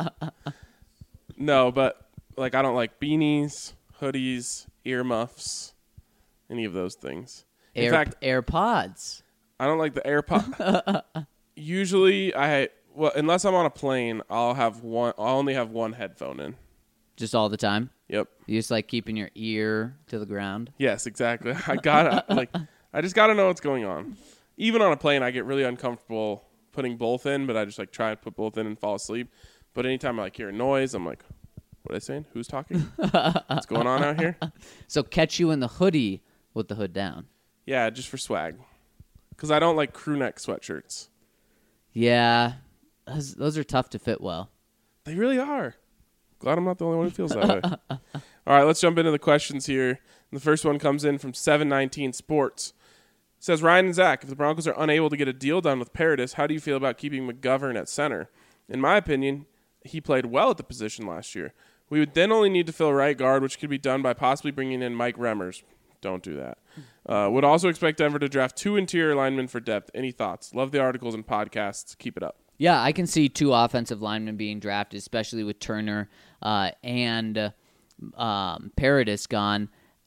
No, but like I don't like beanies, hoodies, earmuffs, any of those things. In fact, AirPods. I don't like the AirPod. Usually unless I'm on a plane, I'll only have one headphone in. Just all the time? Yep. You just like keeping your ear to the ground? Yes, exactly. I just gotta know what's going on. Even on a plane, I get really uncomfortable putting both in, but I just try to put both in and fall asleep. But anytime I hear a noise, I'm like, what are they saying? Who's talking? What's going on out here? So catch you in the hoodie with the hood down. Yeah, just for swag. Because I don't like crew neck sweatshirts. Yeah. Those are tough to fit well. They really are. Glad I'm not the only one who feels that way. All right, let's jump into the questions here. The first one comes in from 719 Sports. It says, Ryan and Zach, if the Broncos are unable to get a deal done with Paradis, how do you feel about keeping McGovern at center? In my opinion, he played well at the position last year. We would then only need to fill right guard, which could be done by possibly bringing in Mike Remmers. Don't do that. Would also expect Denver to draft 2 interior linemen for depth. Any thoughts? Love the articles and podcasts. Keep it up. Yeah, I can see 2 offensive linemen being drafted, especially with Turner and Paradis gone.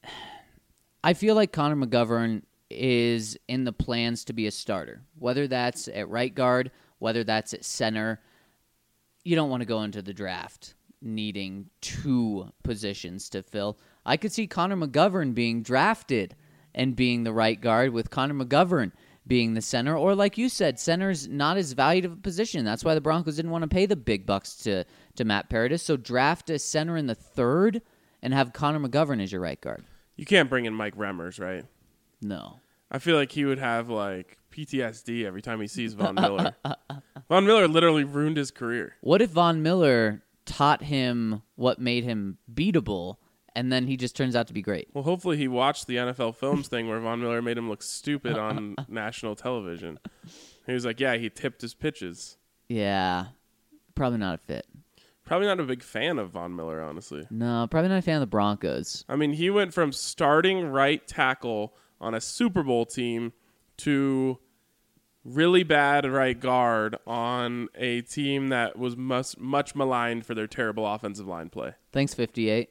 I feel like Connor McGovern is in the plans to be a starter, whether that's at right guard, whether that's at center. You don't want to go into the draft needing 2 positions to fill. I could see Connor McGovern being drafted and being the right guard, with Connor McGovern being the center. Or like you said, center's not as valued of a position. That's why the Broncos didn't want to pay the big bucks to Matt Paradis. So draft a center in the 3rd and have Connor McGovern as your right guard. You can't bring in Mike Remmers, right? No. I feel like he would have like PTSD every time he sees Von Miller. Von Miller literally ruined his career. What if Von Miller taught him what made him beatable, and then he just turns out to be great? Well, hopefully he watched the NFL Films thing where Von Miller made him look stupid on national television. He was like, yeah, he tipped his pitches. Yeah. Probably not a fit. Probably not a big fan of Von Miller, honestly. No, probably not a fan of the Broncos. I mean, he went from starting right tackle on a Super Bowl team to really bad right guard on a team that was much maligned for their terrible offensive line play. Thanks, 58.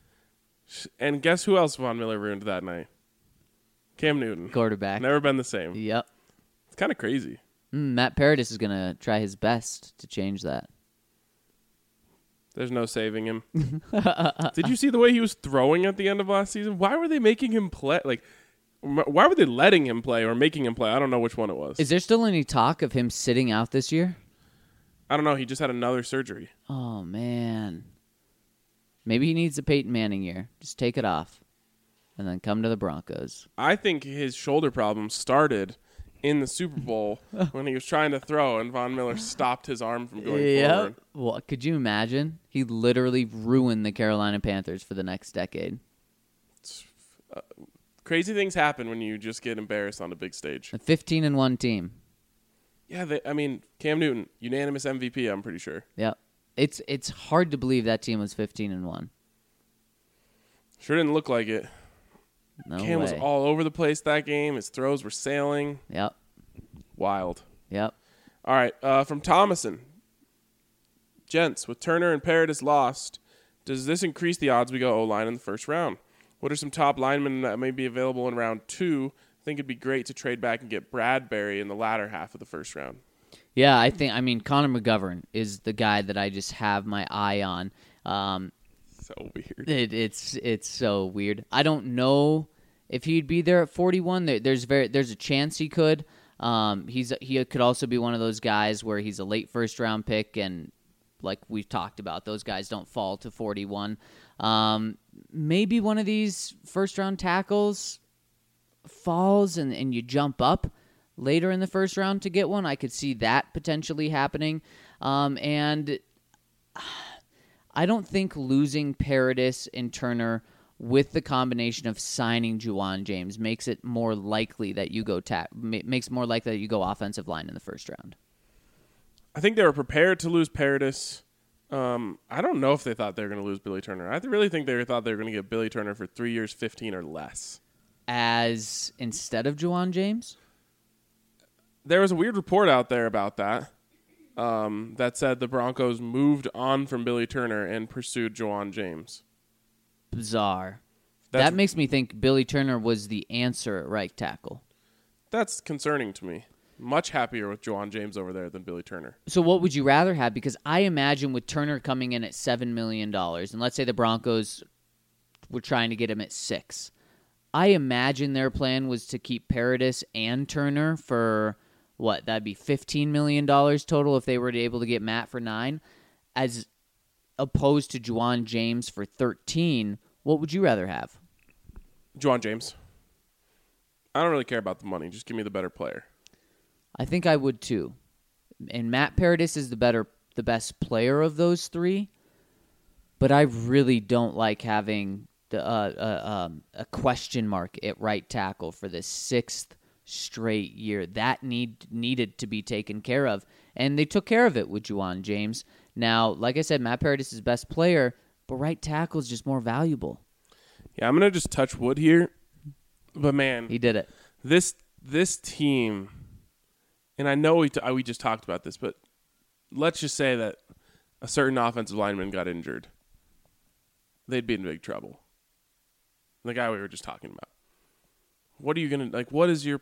And guess who else Von Miller ruined that night? Cam Newton. Quarterback. Never been the same. Yep. It's kind of crazy. Matt Paradis is going to try his best to change that. There's no saving him. Did you see the way he was throwing at the end of last season? Why were they making him play? Like, why were they letting him play or making him play? I don't know which one it was. Is there still any talk of him sitting out this year? I don't know. He just had another surgery. Oh, man. Maybe he needs a Peyton Manning year. Just take it off and then come to the Broncos. I think his shoulder problem started in the Super Bowl when he was trying to throw and Von Miller stopped his arm from going forward. Well, could you imagine? He literally ruined the Carolina Panthers for the next decade. Crazy things happen when you just get embarrassed on a big stage. A 15-1 team. Yeah, Cam Newton, unanimous MVP, I'm pretty sure. Yep. It's hard to believe that team was 15-1. Sure didn't look like it. No Cam way. was all over the place that game. His throws were sailing. Yep. Wild. Yep. All right, from Thomason. Gents, with Turner and Paradis lost, does this increase the odds we go O-line in the first round? What are some top linemen that may be available in round 2? I think it'd be great to trade back and get Bradbury in the latter half of the first round. Yeah, Connor McGovern is the guy that I just have my eye on. So weird. It's so weird. I don't know if he'd be there at 41. There's a chance he could. He could also be one of those guys where he's a late first round pick, and like we've talked about, those guys don't fall to 41. Maybe one of these first round tackles falls and you jump up later in the first round to get one. I could see that potentially happening. And I don't think losing Paradis and Turner with the combination of signing Juwan James makes it more likely that you go offensive line in the first round. I think they were prepared to lose Paradis. I don't know if they thought they were going to lose Billy Turner. I really think they thought they were going to get Billy Turner for 3 years, 15 or less. As instead of Juwan James? There was a weird report out there about that. That said the Broncos moved on from Billy Turner and pursued Juwan James. Bizarre. That makes me think Billy Turner was the answer at right tackle. That's concerning to me. Much happier with Juwan James over there than Billy Turner. So what would you rather have? Because I imagine with Turner coming in at $7 million, and let's say the Broncos were trying to get him at $6 million, I imagine their plan was to keep Paradis and Turner for... what, that'd be $15 million total if they were able to get Matt for $9 million, as opposed to Juwan James for $13 million. What would you rather have? Juwan James. I don't really care about the money. Just give me the better player. I think I would too. And Matt Paradis is the best player of those three, but I really don't like having a question mark at right tackle for the 6th straight year. That needed to be taken care of, and they took care of it with Juwan James. Now, like I said, Matt Paradis is the best player, but right tackle is just more valuable. Yeah, I'm gonna just touch wood here, but man, He did it. This team, and I know we just talked about this, but let's just say that a certain offensive lineman got injured. They'd be in big trouble. The guy we were just talking about. What are you going to, like, what is your...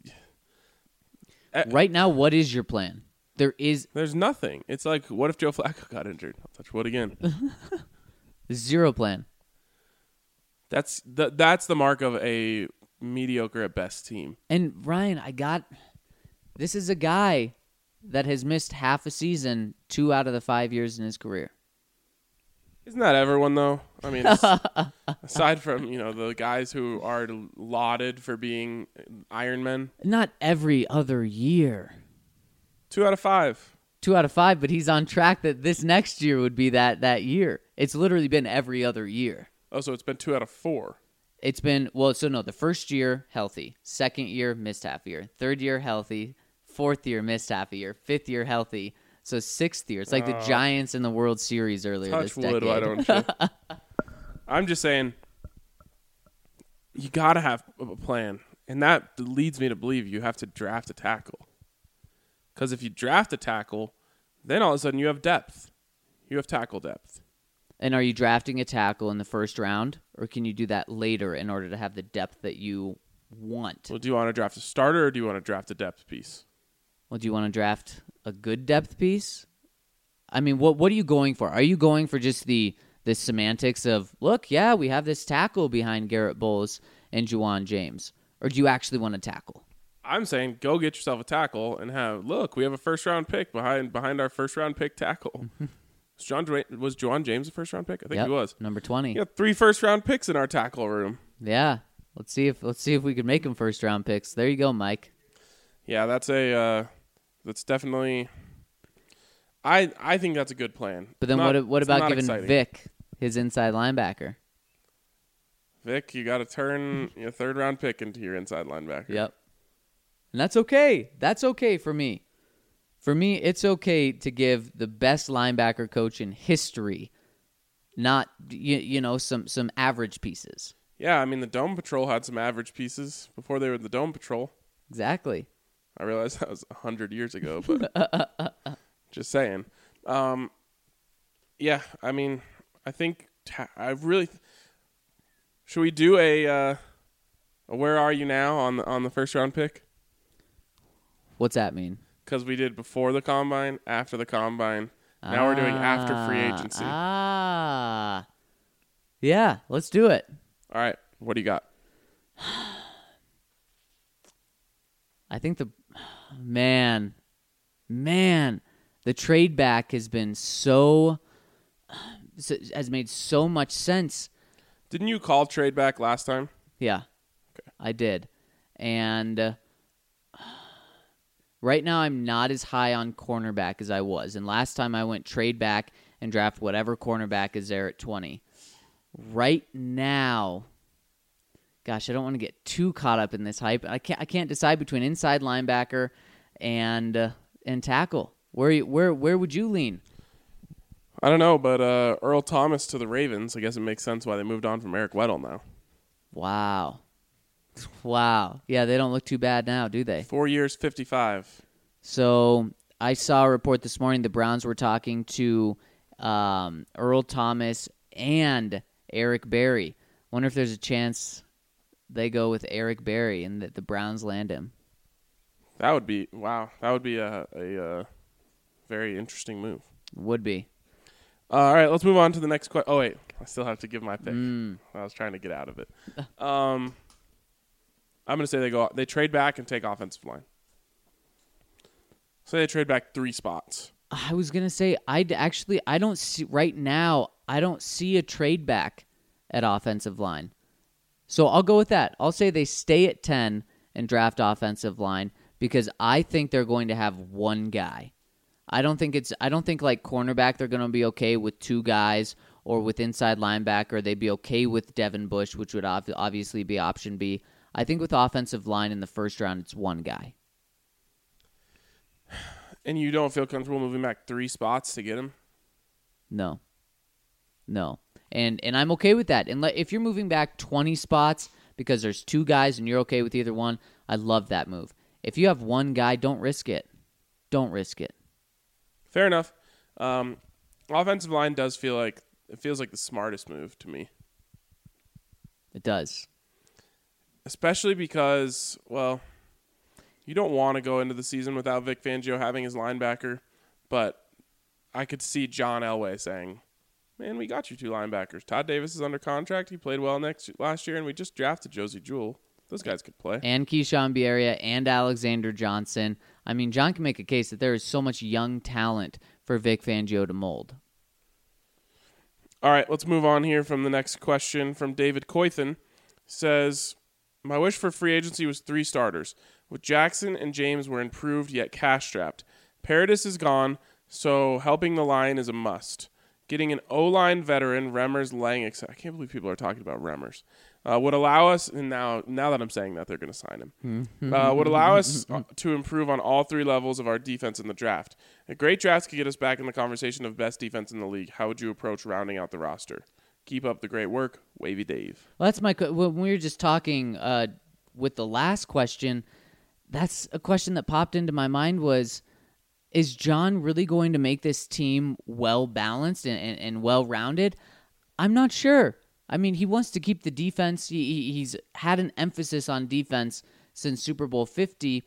Right now, what is your plan? There's nothing. It's like, what if Joe Flacco got injured? I'll touch wood again. Zero plan. That's the mark of a mediocre at best team. And Ryan, this is a guy that has missed half a season 2 out of the 5 years in his career. Isn't that everyone, though? I mean, aside from, the guys who are lauded for being Iron Men. Not every other year. 2 out of 5. 2 out of 5, but he's on track that this next year would be that year. It's literally been every other year. Oh, so it's been 2 out of 4. It's been, the first year, healthy. Second year, missed half a year. Third year, healthy. Fourth year, missed half a year. Fifth year, healthy. So sixth year. It's like the Giants in the World Series earlier this decade. Touch wood, why don't you? I'm just saying, you got to have a plan. And that leads me to believe you have to draft a tackle. Because if you draft a tackle, then all of a sudden you have depth. You have tackle depth. And are you drafting a tackle in the first round, or can you do that later in order to have the depth that you want? Well, do you want to draft a starter, or do you want to draft a depth piece? Well, do you want to draft a good depth piece? I mean, what are you going for? Are you going for just the semantics of, look, yeah, we have this tackle behind Garrett Bowles and Juwan James, or do you actually want a tackle? I'm saying go get yourself a tackle and we have a first-round pick behind our first-round pick tackle. Was Juwan James a first-round pick? I think he was. Number 20. We got 3 first-round picks in our tackle room. Yeah. Let's see if we can make them first-round picks. There you go, Mike. Yeah, that's definitely. I think that's a good plan. But then what about giving Vic his inside linebacker? Vic, you got to turn your third-round pick into your inside linebacker. Yep. And that's okay. That's okay for me. For me, it's okay to give the best linebacker coach in history, not some average pieces. Yeah, I mean the Dome Patrol had some average pieces before they were the Dome Patrol. Exactly. I realize that was 100 years ago, but just saying. Yeah, I mean, I think should we do a where are you now on the first round pick? What's that mean? Because we did before the combine, after the combine. Now we're doing after free agency. Yeah, let's do it. All right, what do you got? I think the trade back has made so much sense. Didn't you call trade back last time? Yeah, okay. I did. And right now I'm not as high on cornerback as I was. And last time I went trade back and draft whatever cornerback is there at 20. Right now, gosh, I don't want to get too caught up in this hype. I can't decide between inside linebacker and tackle. Where would you lean? I don't know, but Earl Thomas to the Ravens. I guess it makes sense why they moved on from Eric Weddle now. Wow. Yeah, they don't look too bad now, do they? 4 years, 55. So I saw a report this morning. The Browns were talking to Earl Thomas and Eric Berry. Wonder if there's a chance they go with Eric Berry and that the Browns land him. That would be a very interesting move. Would be. All right, let's move on to the next question. Oh, wait. I still have to give my pick. I was trying to get out of it. I'm going to say they trade back and take offensive line. So they trade back 3 spots. I was going to say, I don't see, right now, I don't see a trade back at offensive line. So I'll go with that. I'll say they stay at 10 and draft offensive line because I think they're going to have one guy. I don't think like cornerback they're going to be okay with 2 guys, or with inside linebacker they'd be okay with Devin Bush, which would obviously be option B. I think with offensive line in the first round it's one guy. And you don't feel comfortable moving back 3 spots to get him? No. And I'm okay with that. And if you're moving back 20 spots because there's 2 guys and you're okay with either one, I love that move. If you have one guy, don't risk it. Don't risk it. Fair enough. Offensive line feels like the smartest move to me. It does. Especially because, well, you don't want to go into the season without Vic Fangio having his linebacker, but I could see John Elway saying, man, we got you 2 linebackers. Todd Davis is under contract. He played well last year, and we just drafted Josie Jewell. Those guys could play. And Keyshawn Bierria and Alexander Johnson. I mean, John can make a case that there is so much young talent for Vic Fangio to mold. All right, let's move on here from the next question from David Coythan. Says, my wish for free agency was 3 starters. With Jackson and James were improved yet cash-strapped. Paradis is gone, so helping the line is a must. Getting an O-line veteran, Remmers, Lang, I can't believe people are talking about Remmers, would allow us, and now that I'm saying that, they're going to sign him, would allow us to improve on all 3 levels of our defense in the draft. A great draft could get us back in the conversation of best defense in the league. How would you approach rounding out the roster? Keep up the great work. Wavy Dave. Well, that's when we were just talking with the last question, that's a question that popped into my mind was, is John really going to make this team well-balanced and well-rounded? I'm not sure. I mean, he wants to keep the defense. He's had an emphasis on defense since Super Bowl 50.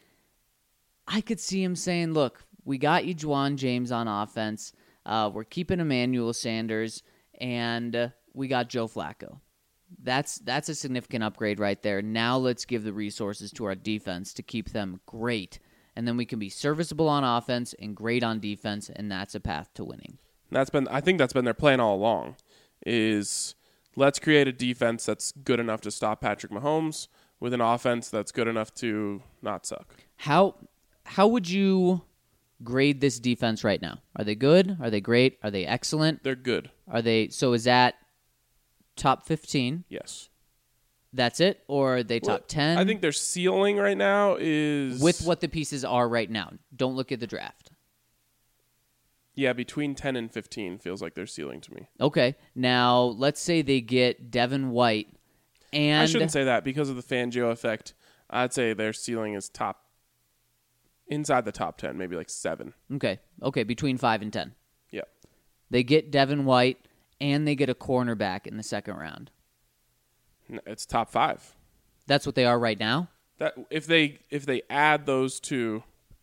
I could see him saying, look, we got you Juwan James on offense. We're keeping Emmanuel Sanders, and we got Joe Flacco. That's a significant upgrade right there. Now let's give the resources to our defense to keep them great. And then we can be serviceable on offense and great on defense, and that's a path to winning. I think that's been their plan all along, is let's create a defense that's good enough to stop Patrick Mahomes with an offense that's good enough to not suck. How would you grade this defense right now? Are they good? Are they great? Are they excellent? They're good. So is that top 15? Yes. That's it? Or are they top 10? I think their ceiling right now is... With what the pieces are right now. Don't look at the draft. Yeah, between 10 and 15 feels like their ceiling to me. Okay. Now, let's say they get Devin White and... I shouldn't say that because of the Fangio effect. I'd say their ceiling is inside the top 10, maybe like 7. Okay, between 5 and 10. Yeah. They get Devin White and they get a cornerback in the second round. It's top 5. That's what they are right now? That if they add those two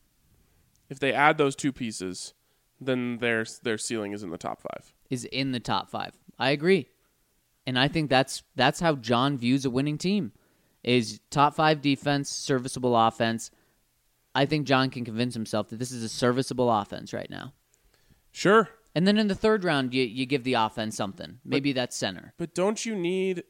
pieces, then their ceiling is in the top 5. Is in the top 5. I agree. And I think that's how John views a winning team. Is top 5 defense, serviceable offense. I think John can convince himself that this is a serviceable offense right now. Sure. And then in the third round, you give the offense something. Maybe that's center. But don't you need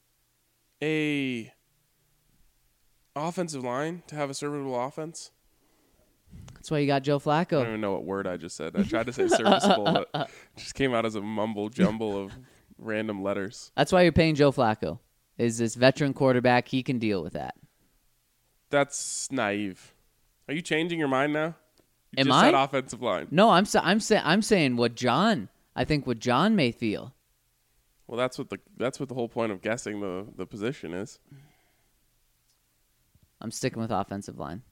a offensive line to have a serviceable offense? That's why you got Joe I don't Flacco. even know what word I just said. I tried to say serviceable, but it just came out as a mumble jumble of random letters. That's why you're paying Joe Flacco. Is this veteran quarterback? He can deal with that. That's naive. Are you changing your mind now? You Am just I? said offensive line. No, I'm saying what John may feel. Well, that's what the whole point of guessing the position is. I'm sticking with offensive line.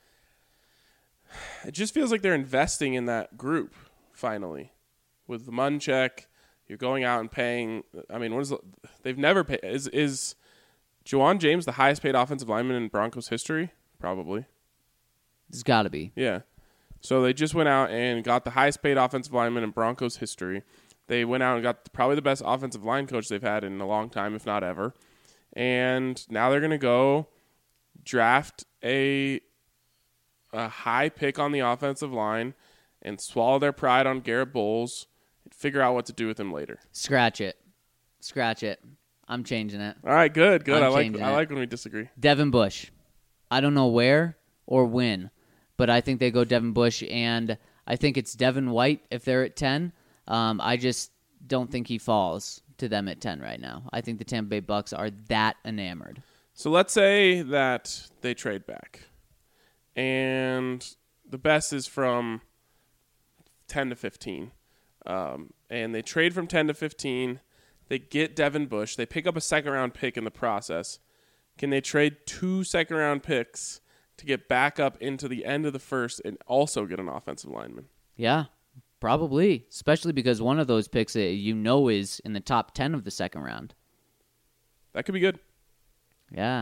It just feels like they're investing in that group finally. With the Munchak, you're going out and paying. I mean, they've never paid. Is Juwan James the highest paid offensive lineman in Broncos history? Probably. It's got to be. Yeah. So they just went out and got the highest paid offensive lineman in Broncos history. They went out and got probably the best offensive line coach they've had in a long time, if not ever. And now they're going to go draft a high pick on the offensive line and swallow their pride on Garrett Bowles and figure out what to do with him later. Scratch it. I'm changing it. All right, good. I'm I changing like it. when we disagree. Devin Bush. I don't know where or when, but I think they go Devin Bush, and I think it's Devin White if they're at 10. I just don't think he falls to them at 10 right now. I think the Tampa Bay Bucks are that enamored. So let's say that they trade back, and the best is from 10 to 15. And they trade from 10 to 15. They get Devin Bush. They pick up a second-round pick in the process. Can they trade 2 second-round picks to get back up into the end of the first and also get an offensive lineman? Yeah, probably. Especially because one of those picks, is in the top 10 of the second round. That could be good. Yeah.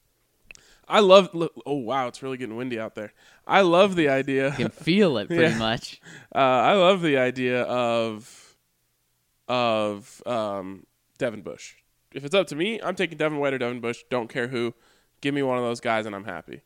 Oh, wow, it's really getting windy out there. I love the idea. You can feel it pretty Yeah. much. I love the idea of Devin Bush. If it's up to me, I'm taking Devin White or Devin Bush. Don't care who. Give me one of those guys, and I'm happy.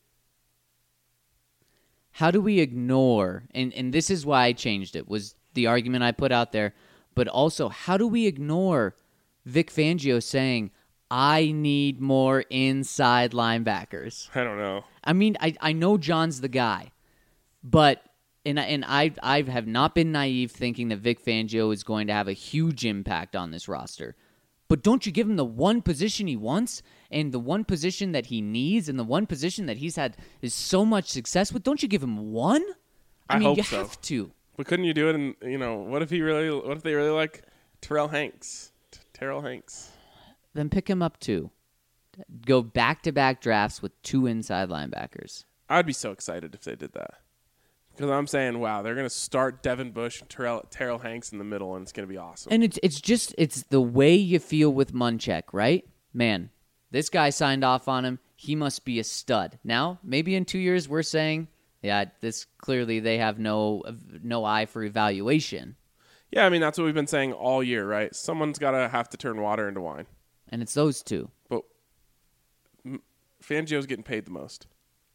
How do we ignore, and this is why I changed it, was the argument I put out there, but also how do we ignore Vic Fangio saying, I need more inside linebackers? I don't know. I mean, I know John's the guy, but I have not been naive thinking that Vic Fangio is going to have a huge impact on this roster. But don't you give him the one position he wants and the one position that he needs and the one position that he's had is so much success with? Don't you give him one? I mean, hope you so. have to. But couldn't you do it? What if they really like Terrell Hanks? Terrell Hanks. Then pick him up two. Go back-to-back drafts with two inside linebackers. I'd be so excited if they did that. Because I'm saying, wow, they're going to start Devin Bush and Terrell Hanks in the middle, and it's going to be awesome. And it's the way you feel with Munchak, right? Man, this guy signed off on him. He must be a stud. Now, maybe in 2 years we're saying, yeah, this clearly they have no eye for evaluation. Yeah, I mean, that's what we've been saying all year, right? Someone's got to have to turn water into wine. And it's those two. But Fangio's getting paid the most.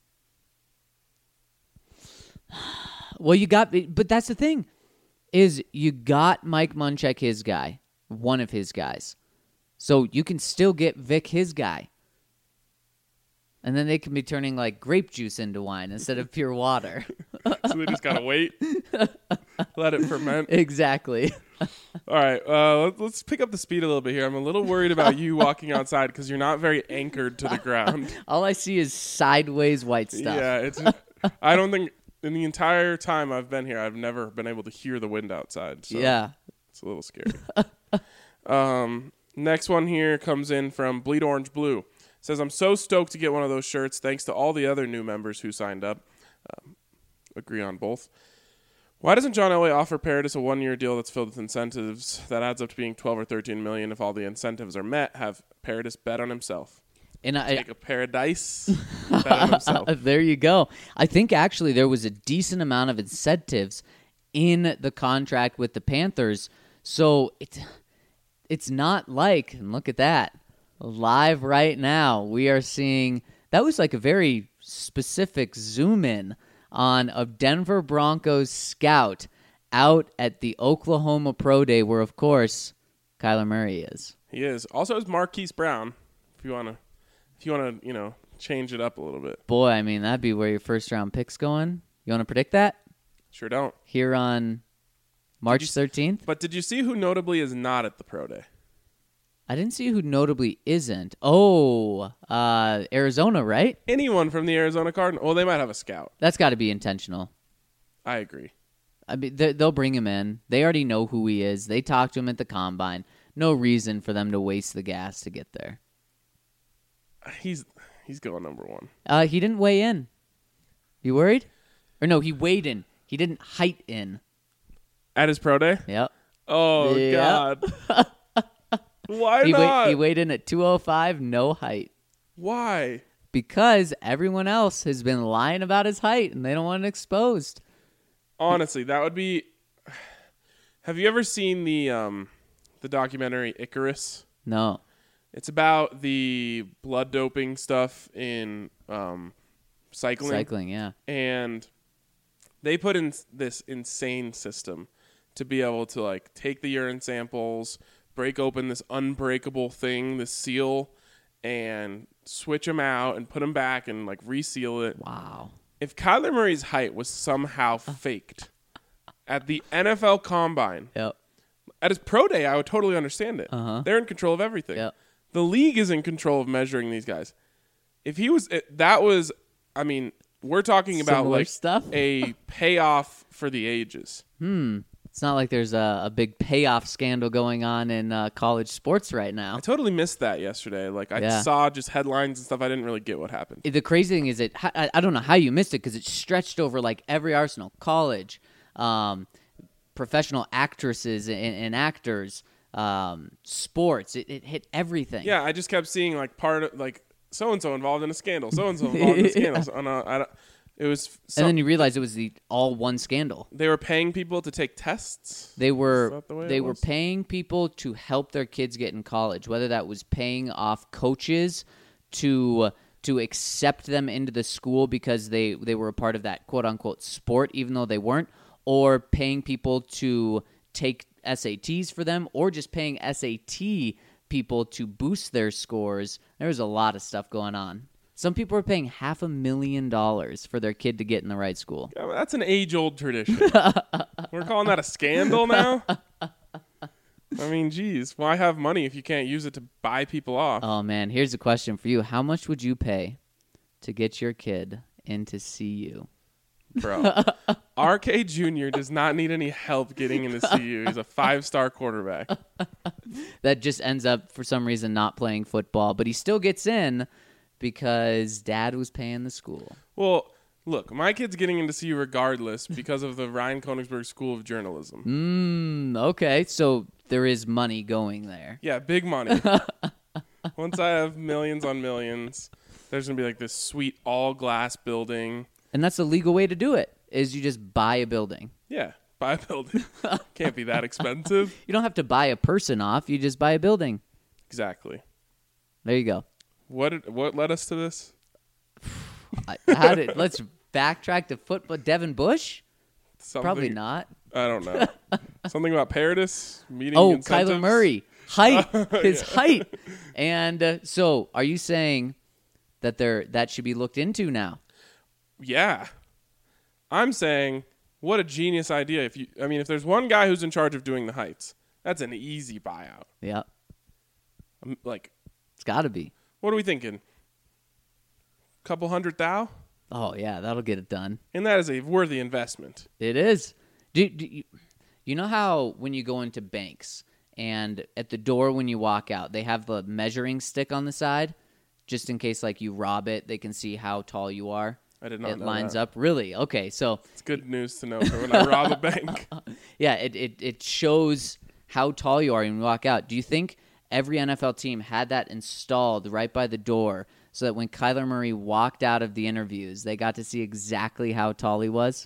Well, but that's the thing, is you got Mike Munchak, his guy, one of his guys. So you can still get Vic, his guy. And then they can be turning like grape juice into wine instead of pure water. So they just got to wait, let it ferment. Exactly. All right, let's pick up the speed a little bit here. I'm a little worried about you walking outside because you're not very anchored to the ground. All I see is sideways white stuff. Yeah, I don't think in the entire time I've been here, I've never been able to hear the wind outside. So Yeah. it's a little scary. Next one here comes in from Bleed Orange Blue. It says, I'm so stoked to get one of those shirts thanks to all the other new members who signed up. Agree on both. Why doesn't John Elway offer Paradis a 1-year deal that's filled with incentives that adds up to being 12 or 13 million if all the incentives are met? Have Paradis bet on himself. And Take a Paradise bet on himself. There you go. I think actually there was a decent amount of incentives in the contract with the Panthers. So it's not like, and look at that, live right now, we are seeing, that was like a very specific zoom in on a Denver Broncos scout out at the Oklahoma Pro Day where, of course, Kyler Murray is. He is. Also, is Marquise Brown, if you want to, change it up a little bit. Boy, I mean, that'd be where your first-round pick's going. You want to predict that? Sure don't. Here on March 13th? But did you see who notably is not at the Pro Day? I didn't see who notably isn't. Oh, Arizona, right? Anyone from the Arizona Cardinals. Well, they might have a scout. That's got to be intentional. I agree. I mean, they'll bring him in. They already know who he is. They talked to him at the Combine. No reason for them to waste the gas to get there. He's going number one. He didn't weigh in. You worried? Or no, he weighed in. He didn't height in. At his Pro Day? Yep. Oh, Yep. God. Why not? He weighed in at 205, no height. Why? Because everyone else has been lying about his height, and they don't want it exposed. Honestly, that would be... Have you ever seen the documentary Icarus? No. It's about the blood doping stuff in cycling. Cycling, yeah. And they put in this insane system to be able to like take the urine samples, break open this unbreakable thing, this seal, and switch them out and put them back and like reseal it. Wow. If Kyler Murray's height was somehow faked at the NFL Combine, Yep. at his pro day, I would totally understand it. Uh-huh. They're in control of everything. Yep. The league is in control of measuring these guys. If he was, that was, I mean, we're talking about Similar like stuff? a payoff for the ages. It's not like there's a big payoff scandal going on in college sports right now. I totally missed that yesterday. Like I Yeah. saw just headlines and stuff. I didn't really get what happened. The crazy thing is I don't know how you missed it because it stretched over like every Arsenal, college, professional actresses and actors, sports. It hit everything. Yeah, I just kept seeing like part of like so and so involved in a scandal, so and so involved in a scandal. So, it was. And then you realize it was all one scandal. They were paying people to take tests. They were Is that the way they it were was? paying people to help their kids get in college, whether that was paying off coaches to accept them into the school because they were a part of that quote unquote sport, even though they weren't, or paying people to take SATs for them, or just paying SAT people to boost their scores. There was a lot of stuff going on. Some people were paying $500,000 for their kid to get in the right school. Yeah, that's an age-old tradition. We're calling that a scandal now? I mean, geez, why have money if you can't use it to buy people off? Oh, man, here's a question for you. How much would you pay to get your kid into CU? Bro, RK Jr. does not need any help getting into CU. He's a 5-star quarterback. That just ends up, for some reason, not playing football, but he still gets in because dad was paying the school. Well, look, my kid's getting into CU regardless because of the Ryan Koenigsberg School of Journalism. Okay, so there is money going there. Yeah, big money. Once I have millions on millions, there's going to be like this sweet all-glass building. And that's the legal way to do it, is you just buy a building. Yeah, buy a building. Can't be that expensive. You don't have to buy a person off, you just buy a building. Exactly. There you go. What led us to this? Let's backtrack to football. Devin Bush? Something, Probably not. I don't know. Something about Paradis meeting Oh, incentives? Kyler Murray. Height. His height. And so are you saying that that should be looked into now? Yeah. I'm saying, what a genius idea. If there's one guy who's in charge of doing the heights, that's an easy buyout. Yeah. Like, It's got to be. what are we thinking? Couple $100,000? Oh, yeah, that'll get it done. And that is a worthy investment. It is. Do you know how when you go into banks and at the door when you walk out, they have the measuring stick on the side just in case like you rob it, they can see how tall you are. I did not It know lines that. up. Really? Okay, so It's good news to know for when I rob a bank. yeah, it shows how tall you are when you walk out. Do you think every NFL team had that installed right by the door so that when Kyler Murray walked out of the interviews, they got to see exactly how tall he was?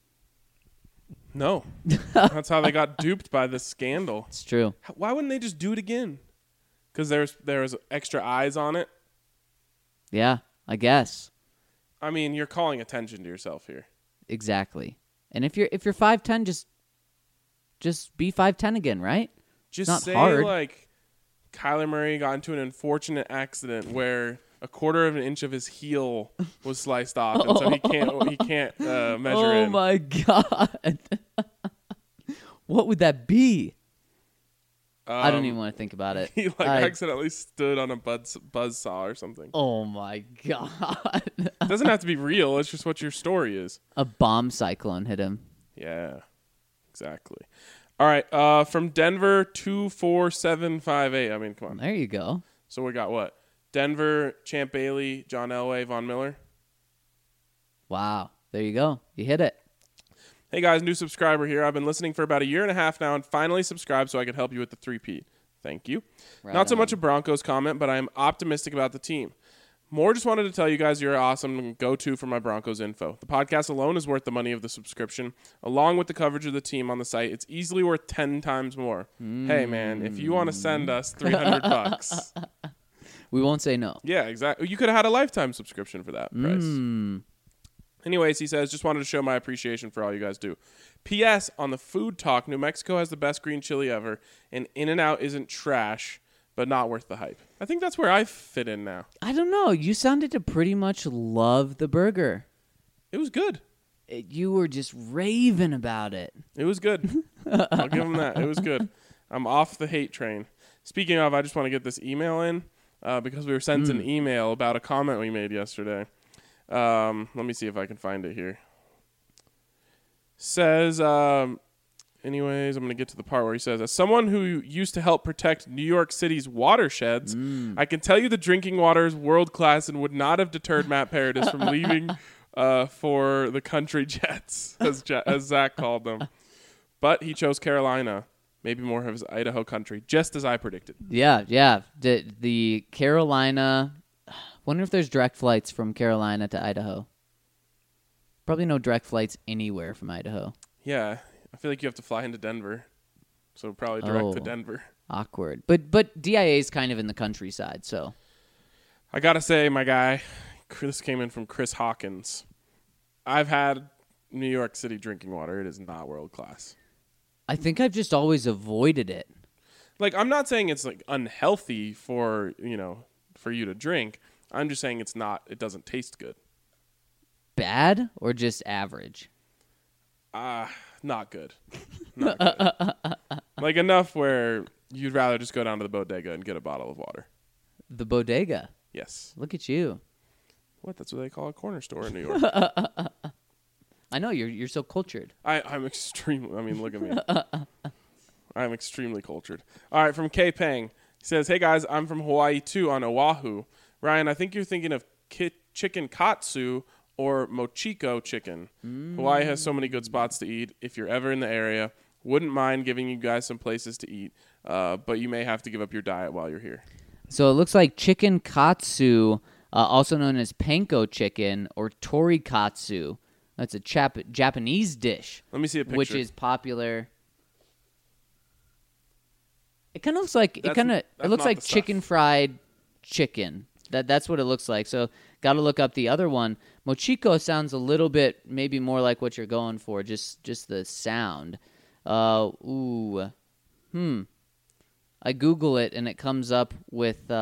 No. That's how they got duped by this scandal. It's true. Why wouldn't they just do it again? Because there was extra eyes on it? Yeah, I guess. I mean, you're calling attention to yourself here. Exactly. And if you're 5'10", just be 5'10" again, right? Just Not say hard. like Kyler Murray got into an unfortunate accident where a quarter of an inch of his heel was sliced off, and so he can't measure Oh in. my god. What would that be? I don't even want to think about it. He accidentally stood on a buzzsaw or something. Oh my god. It doesn't have to be real. It's just what your story is. A bomb cyclone hit him. Yeah, exactly. All right, from Denver 24758. I mean, come on. There you go. So we got what? Denver, Champ Bailey, John Elway, Von Miller. Wow. There you go. You hit it. Hey guys, new subscriber here. I've been listening for about a year and a half now and finally subscribed so I could help you with the 3-peat. Thank you. Right Not so on. much a Broncos comment, but I am optimistic about the team. More just wanted to tell you guys you're awesome go-to for my Broncos info. The podcast alone is worth the money of the subscription. Along with the coverage of the team on the site, it's easily worth 10 times more. Hey man, if you want to send us $300, We won't say no. yeah, exactly. You could have had a lifetime subscription for that price. Anyways, he says, just wanted to show my appreciation for all you guys do. P.S. On the food talk, New Mexico has the best green chili ever, and In-N-Out isn't trash, but not worth the hype. I think that's where I fit in now. I don't know. You sounded to pretty much love the burger. It was good. You were just raving about it. It was good. I'll give him that. It was good. I'm off the hate train. Speaking of, I just want to get this email in because we were sent an email about a comment we made yesterday. Let me see if I can find it here. Says, anyways, I'm going to get to the part where he says, as someone who used to help protect New York City's watersheds, I can tell you the drinking water is world class and would not have deterred Matt Paradis from leaving for the country Jets, as Zach called them. But he chose Carolina, maybe more of his Idaho country, just as I predicted. Yeah. The Carolina. Wonder if there's direct flights from Carolina to Idaho. Probably no direct flights anywhere from Idaho. Yeah, I feel like you have to fly into Denver, so probably direct to Oh. Denver. Awkward. But DIA is kind of in the countryside, so. I gotta say, my guy, this came in from Chris Hawkins. I've had New York City drinking water. It is not world class. I think I've just always avoided it. Like, I'm not saying it's like unhealthy for you to drink. I'm just saying it doesn't taste good. Bad or just average? Not good. Not good. Like enough where you'd rather just go down to the bodega and get a bottle of water. The bodega. Yes. Look at you. What? That's what they call a corner store in New York. I know you're so cultured. I'm extremely. I mean, look at me. I'm extremely cultured. All right, from K Pang. He says, "Hey guys, I'm from Hawaii too, on Oahu. Ryan, I think you're thinking of chicken katsu or mochiko chicken. Hawaii has so many good spots to eat. If you're ever in the area, wouldn't mind giving you guys some places to eat, but you may have to give up your diet while you're here." So it looks like chicken katsu, also known as panko chicken or torikatsu. That's a Japanese dish, Let me see a picture. which is popular. It kind of looks like That's it looks not like the stuff. chicken fried chicken. That's what it looks like. So got to look up the other one. Mochiko sounds a little bit maybe more like what you're going for, just the sound. I Google it and it comes up with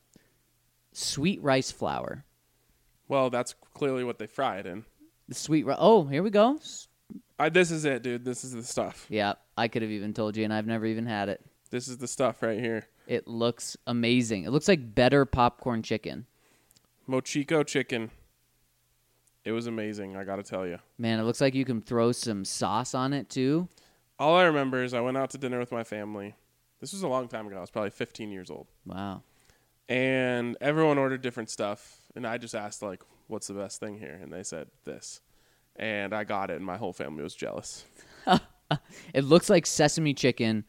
sweet rice flour. Well, that's clearly what they fried in. The sweet rice. Oh, here we go. This is it, dude. This is the stuff. Yeah, I could have even told you, and I've never even had it. This is the stuff right here. It looks amazing. It looks like better popcorn chicken. Mochiko chicken. It was amazing, I got to tell you. Man, it looks like you can throw some sauce on it too. All I remember is I went out to dinner with my family. This was a long time ago. I was probably 15 years old. Wow. And everyone ordered different stuff. And I just asked, like, what's the best thing here? And they said this. And I got it, and my whole family was jealous. It looks like sesame chicken,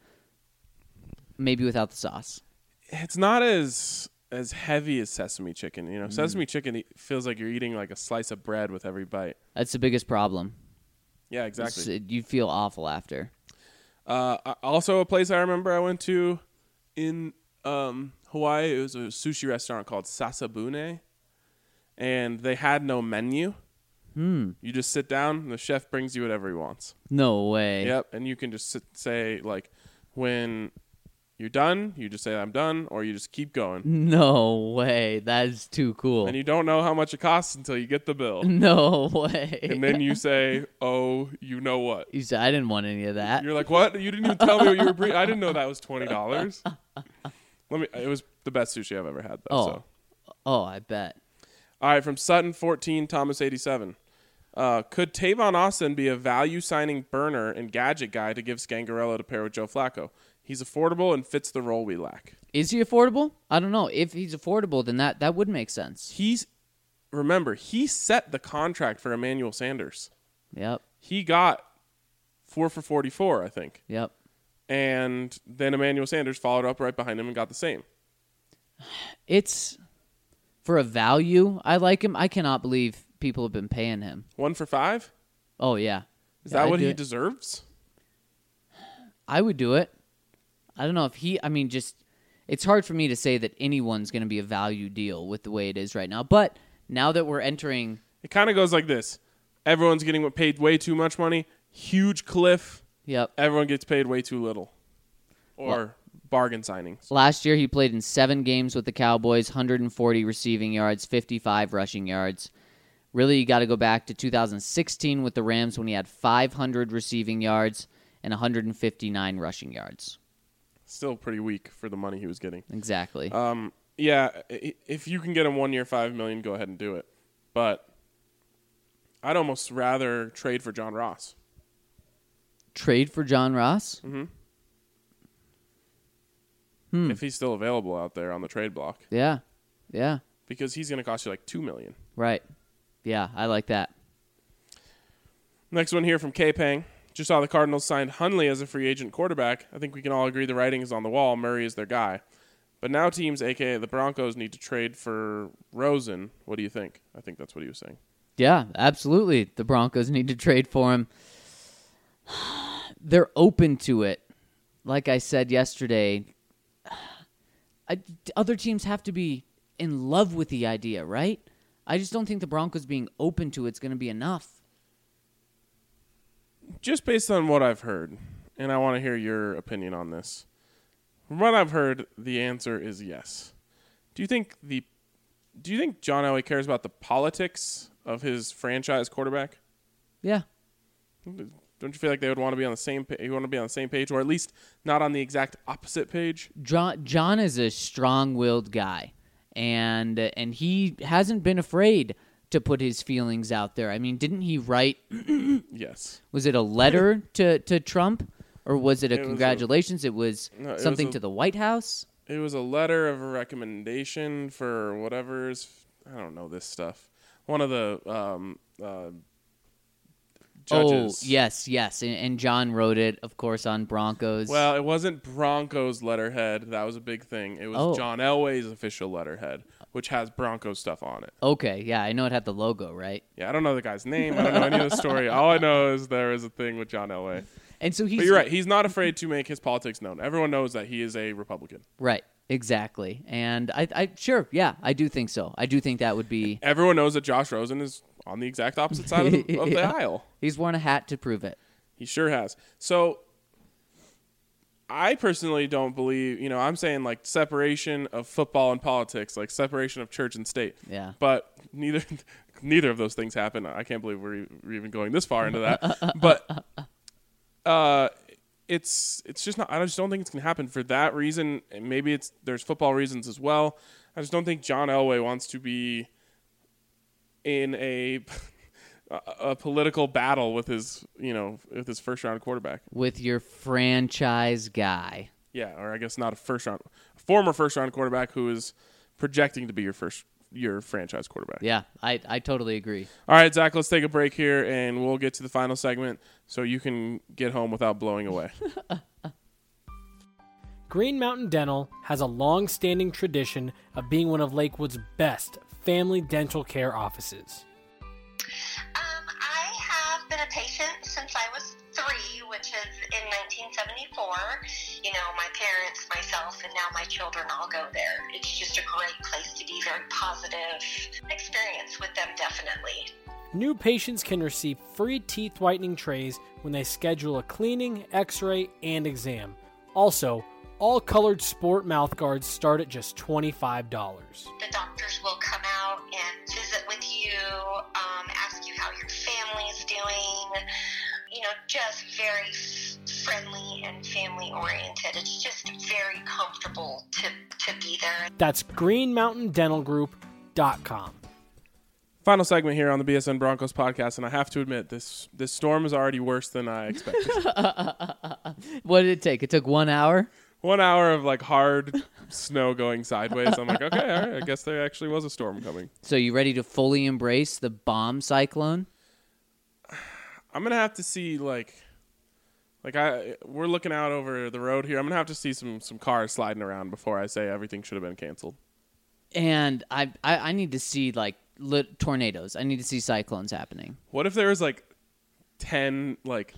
maybe without the sauce. It's not as heavy as sesame chicken. You know, sesame chicken feels like you're eating like a slice of bread with every bite. That's the biggest problem. Yeah, exactly. You feel awful after. Also, a place I remember I went to in Hawaii, it was a sushi restaurant called Sasabune, and they had no menu. You just sit down, and the chef brings you whatever he wants. No way. Yep, and you can just say, like, when you're done, you just say, I'm done, or you just keep going. No way. That is too cool. And you don't know how much it costs until you get the bill. No way. And then you say, oh, you know what? You said I didn't want any of that. You're like, what? You didn't even tell me what you were bringing. I didn't know that was $20. It was the best sushi I've ever had, though. Oh. So. Oh, I bet. All right, from Sutton 14, Thomas 87. Could Tavon Austin be a value signing burner and gadget guy to give Scangarello to pair with Joe Flacco? He's affordable and fits the role we lack. Is he affordable? I don't know. If he's affordable, then that would make sense. Remember, he set the contract for Emmanuel Sanders. Yep. He got 4 for 44, I think. Yep. And then Emmanuel Sanders followed up right behind him and got the same. It's for a value. I like him. I cannot believe people have been paying him. 1 for 5? Oh yeah. Is Yeah, that I'd what do he it. deserves? I would do it. I don't know if it's hard for me to say that anyone's going to be a value deal with the way it is right now. But now that we're entering, It kind of goes like this. Everyone's getting paid way too much money. Huge cliff. yep. Everyone gets paid way too little. Or bargain signings. Last year he played in 7 games with the Cowboys, 140 receiving yards, 55 rushing yards. Really, you got to go back to 2016 with the Rams when he had 500 receiving yards and 159 rushing yards. Still pretty weak for the money he was getting. Exactly. Yeah, if you can get him 1 year, $5 million, go ahead and do it. But I'd almost rather trade for John Ross. Trade for John Ross? If he's still available out there on the trade block. Yeah. Yeah. Because he's going to cost you like $2 million. Right. Yeah, I like that. Next one here from K-Pang. Just saw the Cardinals signed Hundley as a free agent quarterback. I think we can all agree the writing is on the wall. Murray is their guy. But now teams, a.k.a. the Broncos, need to trade for Rosen. What do you think? I think that's what he was saying. Yeah, absolutely. The Broncos need to trade for him. They're open to it. Like I said yesterday, other teams have to be in love with the idea, right? I just don't think the Broncos being open to it's going to be enough. Just based on what I've heard, and I want to hear your opinion on this. From what I've heard, the answer is yes. Do you think John Elway cares about the politics of his franchise quarterback? Yeah. Don't you feel like they would want to be on the same you want to be on the same page, or at least not on the exact opposite page? John is a strong-willed guy, and he hasn't been afraid to put his feelings out there. I mean, didn't he write? Yes. Was it a letter to Trump, or was it congratulations? It was something to the White House. It was a letter of a recommendation for whatever's. I don't know this stuff. One of the judges. Oh, yes. And John wrote it, of course, on Broncos. Well, it wasn't Broncos letterhead. That was a big thing. It was John Elway's official letterhead, which has Broncos stuff on it. Okay, yeah, I know it had the logo, right? Yeah, I don't know the guy's name. I don't know any of the story. All I know is there is a thing with John Elway. And so but you're right. He's not afraid to make his politics known. Everyone knows that he is a Republican. Right. Exactly. And I do think so. I do think that would be. Everyone knows that Josh Rosen is on the exact opposite side of the aisle. He's worn a hat to prove it. He sure has. So I personally don't believe, I'm saying like separation of football and politics, like separation of church and state. Yeah. But neither of those things happen. I can't believe we're even going this far into that. But it's just not. I just don't think it's gonna happen for that reason. And maybe there's football reasons as well. I just don't think John Elway wants to be in a political battle with his first round quarterback, with your franchise guy. Yeah, or I guess not a former first round quarterback who is projecting to be your franchise quarterback. Yeah, I totally agree. All right, Zach, let's take a break here, and we'll get to the final segment so you can get home without blowing away. Green Mountain Dental has a long-standing tradition of being one of Lakewood's best family dental care offices. I have been a patient since I was 3, which is in 1974. My parents, myself, and now my children all go there. It's just a great place to be, very positive experience with them, definitely. New patients can receive free teeth whitening trays when they schedule a cleaning, x-ray, and exam. Also, all colored sport mouth guards start at just $25. The doctors will come out and visit with you, ask you how your family is doing, just very friendly and family-oriented. It's just very comfortable to be there. That's greenmountaindentalgroup.com. Final segment here on the BSN Broncos podcast, and I have to admit, this storm is already worse than I expected. What did it take? It took 1 hour? 1 hour of hard snow going sideways. I'm like, okay, all right, I guess there actually was a storm coming. So you ready to fully embrace the bomb cyclone? I'm gonna have to see we're looking out over the road here. I'm gonna have to see some cars sliding around before I say everything should have been canceled. And I need to see tornadoes. I need to see cyclones happening. What if there was 10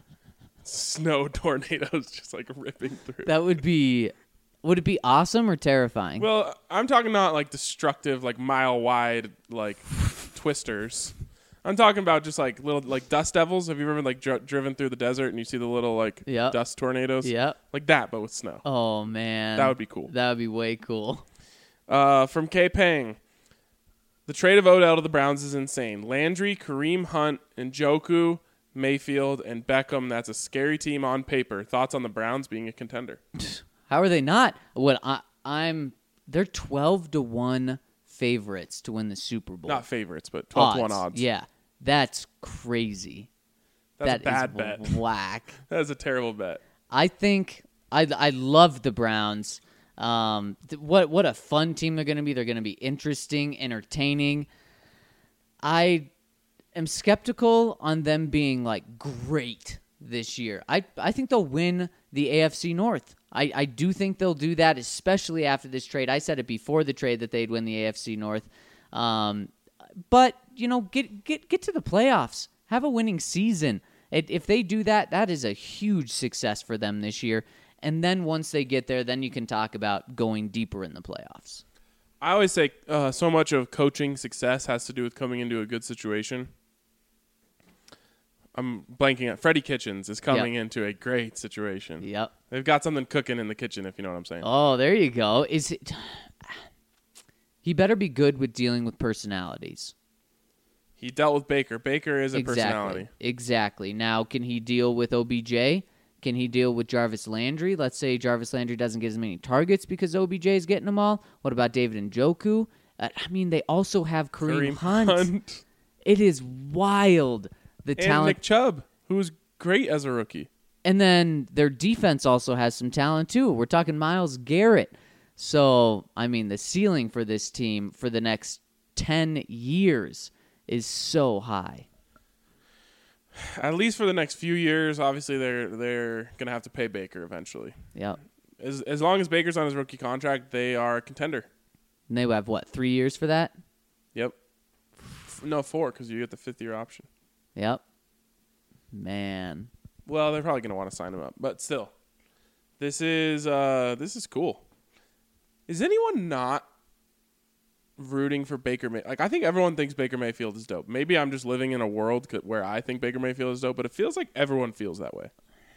snow tornadoes just ripping through? That would be. Would it be awesome or terrifying? Well, I'm talking not destructive, mile wide twisters. I'm talking about just little dust devils. Have you ever been driven through the desert and you see the little dust tornadoes? Yep. Like that, but with snow. Oh man, that would be cool. That would be way cool. From K Pang, the trade of Odell to the Browns is insane. Landry, Kareem Hunt, Njoku, Mayfield, and Beckham. That's a scary team on paper. Thoughts on the Browns being a contender? How are they not? They're 12-1 favorites to win the Super Bowl. Not favorites, but 12-1 odds. Yeah, that's crazy. That's a bad bet. Whack. That is a terrible bet. I think I love the Browns. What a fun team they're going to be. They're going to be interesting, entertaining. I am skeptical on them being like great this year. I think they'll win the AFC North. I do think they'll do that, especially after this trade. I said it before the trade that they'd win the AFC North. But, get to the playoffs. Have a winning season. If they do that, that is a huge success for them this year. And then once they get there, then you can talk about going deeper in the playoffs. I always say so much of coaching success has to do with coming into a good situation. I'm blanking out. Freddie Kitchens is coming into a great situation. Yep. They've got something cooking in the kitchen, if you know what I'm saying. Oh, there you go. He better be good with dealing with personalities. He dealt with Baker. Baker is a personality. Exactly. Now, can he deal with OBJ? Can he deal with Jarvis Landry? Let's say Jarvis Landry doesn't get as many targets because OBJ is getting them all. What about David Njoku? They also have Kareem Hunt. It is wild. The talent. And Nick Chubb, who was great as a rookie. And then their defense also has some talent, too. We're talking Myles Garrett. So, the ceiling for this team for the next 10 years is so high. At least for the next few years, obviously they're going to have to pay Baker eventually. Yep. As long as Baker's on his rookie contract, they are a contender. And they have, 3 years for that? Yep. No, 4, because you get the 5th-year option. Yep. Man. Well, they're probably going to want to sign him up, but still, this is cool. Is anyone not rooting for Baker Mayfield? I think everyone thinks Baker Mayfield is dope. Maybe I'm just living in a world where I think Baker Mayfield is dope, but it feels like everyone feels that way.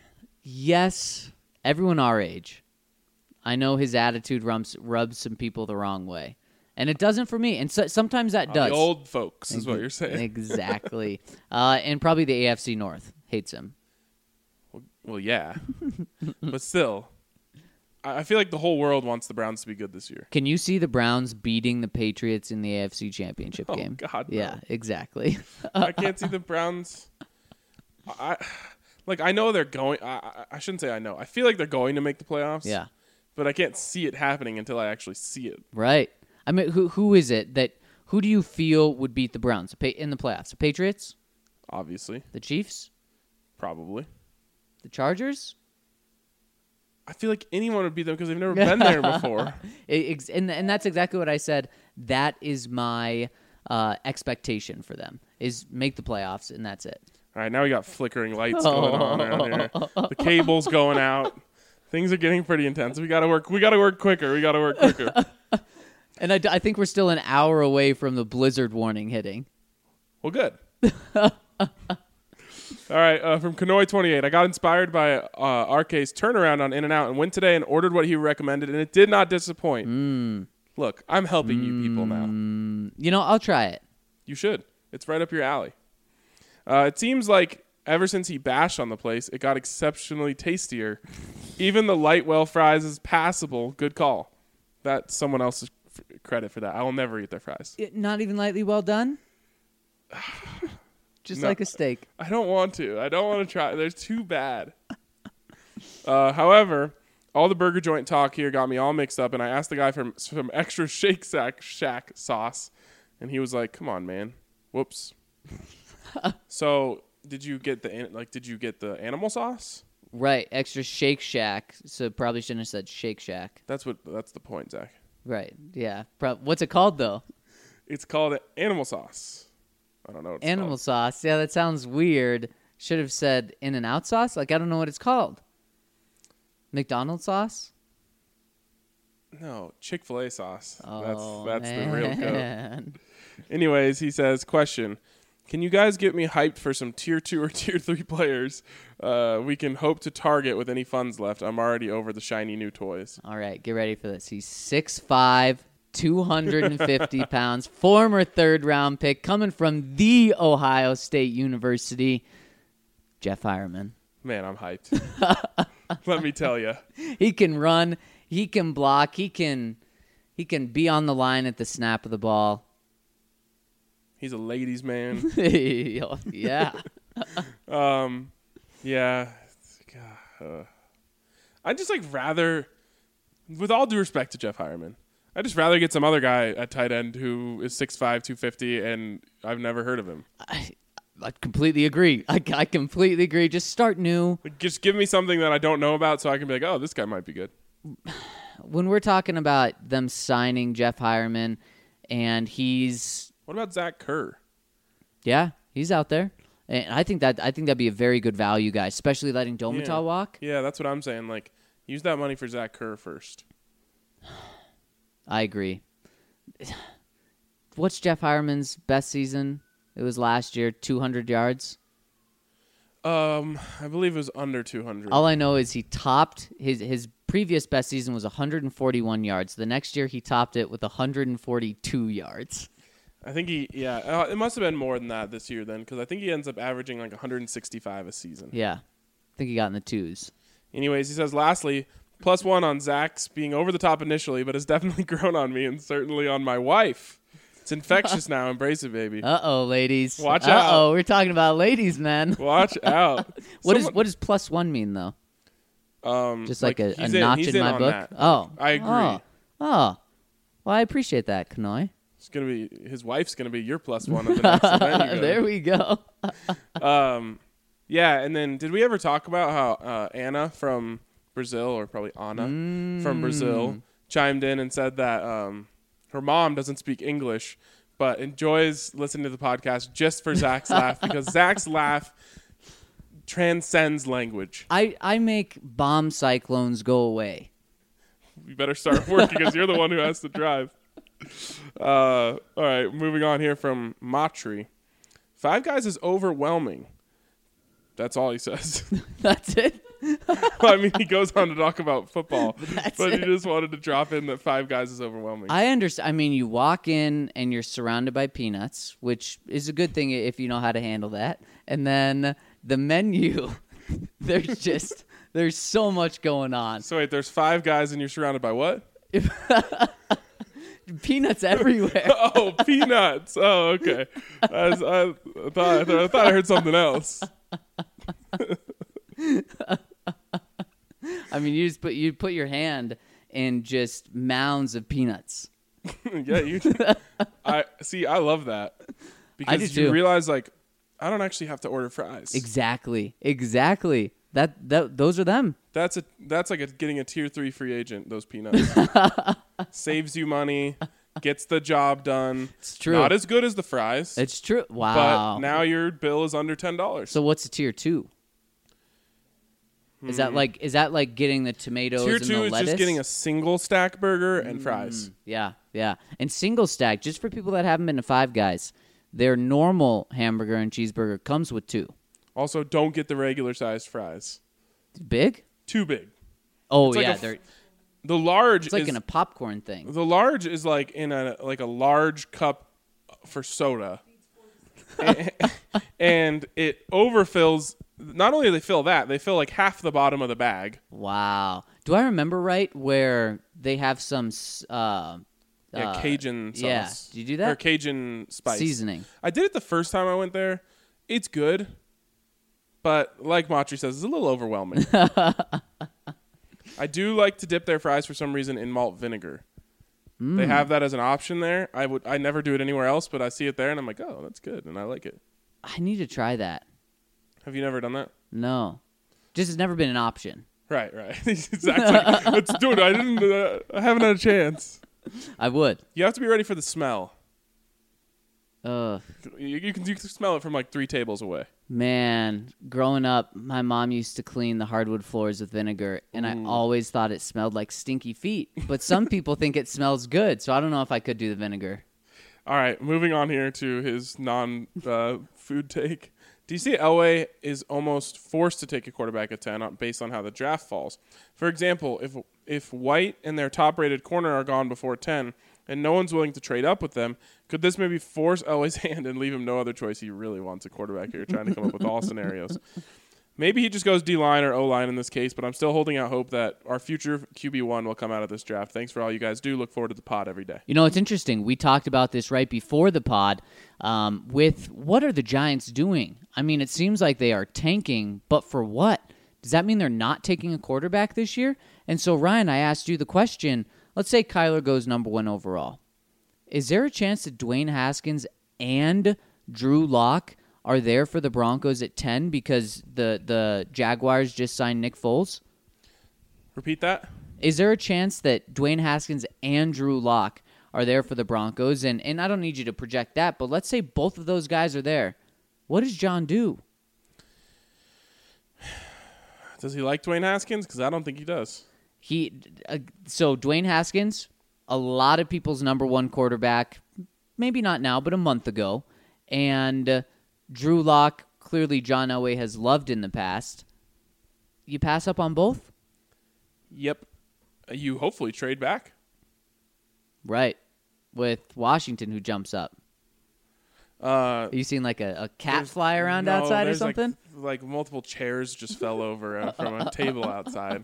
Yes, everyone our age. I know his attitude rubs some people the wrong way. And it doesn't for me. And sometimes that does. The old folks is what you're saying. Exactly. And probably the AFC North hates him. Well, yeah. But still, I feel like the whole world wants the Browns to be good this year. Can you see the Browns beating the Patriots in the AFC Championship game? Oh, God, no. Yeah, exactly. I can't see the Browns. I know they're going. I shouldn't say I know. I feel like they're going to make the playoffs. Yeah. But I can't see it happening until I actually see it. Right. Who is it who do you feel would beat the Browns in the playoffs? The Patriots? Obviously. The Chiefs? Probably. The Chargers? I feel like anyone would beat them because they've never been there before. And that's exactly what I said. That is my expectation for them, is make the playoffs, and that's it. All right, now we got flickering lights going on around here. The cable's going out. Things are getting pretty intense. We got to work quicker. And I think we're still an hour away from the blizzard warning hitting. Well, good. All right, from Kanoi28, I got inspired by RK's turnaround on In-N-Out and went today and ordered what he recommended, and it did not disappoint. Look, I'm helping you people now. I'll try it. You should. It's right up your alley. It seems like ever since he bashed on the place, it got exceptionally tastier. Even the Lightwell fries is passable. Good call. That's someone else's credit for that. I will never eat their fries. Not even lightly well done? Just like a steak. I don't want to try. They're too bad. However, all the burger joint talk here got me all mixed up, and I asked the guy for some extra Shake Shack sauce, and he was like, "Come on, man. Whoops." So, did you get the animal sauce? Right, extra Shake Shack. So probably shouldn't have said Shake Shack. That's the point, Zach. Right. Yeah. What's it called though? It's called animal sauce. I don't know what it's animal called. Sauce. Yeah, that sounds weird. Should have said In-N-Out sauce. I don't know what it's called. McDonald's sauce? No, Chick-fil-A sauce. Oh, that's man. the real code. Anyways, he says, question. Can you guys get me hyped for some Tier 2 or Tier 3 players we can hope to target with any funds left? I'm already over the shiny new toys. All right, get ready for this. He's 6'5", 250 pounds, former third-round pick, coming from The Ohio State University, Jeff Hireman. Man, I'm hyped. Let me tell you. He can run. He can block. He can be on the line at the snap of the ball. He's a ladies' man. Yeah. Yeah. I just rather, with all due respect to Jeff Hireman, I'd just rather get some other guy at tight end who is 6'5", 250, and I've never heard of him. I completely agree. I completely agree. Just start new. Just give me something that I don't know about so I can be like, oh, this guy might be good. When we're talking about them signing Jeff Hireman, and he's What about Zach Kerr? yeah, he's out there, and I think that'd be a very good value guy, especially letting Domital walk. Yeah, that's what I'm saying. Like, use that money for Zach Kerr first. I agree. What's Jeff Hireman's best season? It was last year, 200 yards. I believe it was under 200. All I know is he topped his previous best season was 141 yards. The next year he topped it with 142 yards. I think it must have been more than that this year then, because I think he ends up averaging like 165 a season. Yeah, I think he got in the twos. Anyways, he says, lastly, +1 on Zach's being over the top initially, but has definitely grown on me and certainly on my wife. It's infectious now. Embrace it, baby. Uh-oh, ladies. Watch out. Uh-oh, we're talking about ladies, man. Watch out. What does +1 mean, though? Just like a notch he's in my on book? that. Oh. I agree. Oh. Well, I appreciate that, Kanoi. It's gonna be his wife's gonna be your +1 of the next event you go to. There we go. Yeah, and then did we ever talk about how Anna from Brazil, or probably Anna from Brazil, chimed in and said that her mom doesn't speak English, but enjoys listening to the podcast just for Zach's laugh, because Zach's laugh transcends language. I make bomb cyclones go away. You better start working because you're the one who has to drive. All right, moving on here from Matri. Five Guys is overwhelming. That's all he says. That's it? Well, I mean, he goes on to talk about football, but he it. just wanted to drop in that Five Guys is overwhelming. I understand. I mean, you walk in and you're surrounded by peanuts, which is a good thing if you know how to handle that. And then the menu, there's so much going on. So wait, there's Five Guys and you're surrounded by what? Peanuts everywhere. Oh, peanuts. Oh, okay. I thought I heard something else. I mean, you put your hand in just mounds of peanuts. Yeah, I love that, because do you too. realize, like, I don't actually have to order fries. Exactly. Those are them. That's like getting a tier 3 free agent. Those peanuts saves you money, gets the job done. It's true. Not as good as the fries. It's true. But Wow. now your bill is under $10. So what's a tier 2? Is that like getting the tomatoes Tier and 2 the is lettuce? just getting a single stack burger and fries. Yeah. And single stack, just for people that haven't been to Five Guys, their normal hamburger and cheeseburger comes with 2. Also, don't get the regular sized fries. Big? Too big. Oh It's like yeah, a The large it's like is in a popcorn thing. the large is like in a large cup for soda. And it overfills. Not only do they fill that, they fill like half the bottom of the bag. Wow. Do I remember right where they have some Cajun sauce. yeah. Did you do that? Or Cajun spice. Seasoning. I did it the first time I went there. It's good. But like Matri says, it's a little overwhelming. I do like to dip their fries for some reason in malt vinegar. They have that as an option there. I never do it anywhere else, but I see it there and I'm like, oh, that's good, and I like it. I need to try that. Have you never done that? No. Just has never been an option. Right. Exactly. Dude, I haven't had a chance. I would. You have to be ready for the smell. Ugh. You can smell it from like 3 tables away. Man, growing up, my mom used to clean the hardwood floors with vinegar, and I always thought it smelled like stinky feet. But some people think it smells good, so I don't know if I could do the vinegar. All right, moving on here to his non-food take. DC Elway is almost forced to take a quarterback at 10 based on how the draft falls. For example, if White and their top-rated corner are gone before 10 and no one's willing to trade up with them, could this maybe force Elway's hand and leave him no other choice? He really wants a quarterback here, trying to come up with all scenarios. Maybe he just goes D-line or O-line in this case, but I'm still holding out hope that our future QB1 will come out of this draft. Thanks for all you guys do. Look forward to the pod every day. You know, it's interesting. We talked about this right before the pod with what are the Giants doing? I mean, it seems like they are tanking, but for what? Does that mean they're not taking a quarterback this year? And so, Ryan, I asked you the question, let's say Kyler goes number 1 overall. Is there a chance that Dwayne Haskins and Drew Lock are there for the Broncos at 10 because the Jaguars just signed Nick Foles? Repeat that. Is there a chance that Dwayne Haskins and Drew Lock are there for the Broncos? And I don't need you to project that, but let's say both of those guys are there. What does John do? Does he like Dwayne Haskins? Because I don't think he does. So Dwayne Haskins, a lot of people's number one quarterback, maybe not now, but a month ago. And Drew Lock, clearly John Elway has loved in the past. You pass up on both? Yep. You hopefully trade back. Right. With Washington, who jumps up. Are you seeing like a cat fly around outside or something? Like multiple chairs just fell over from a table outside.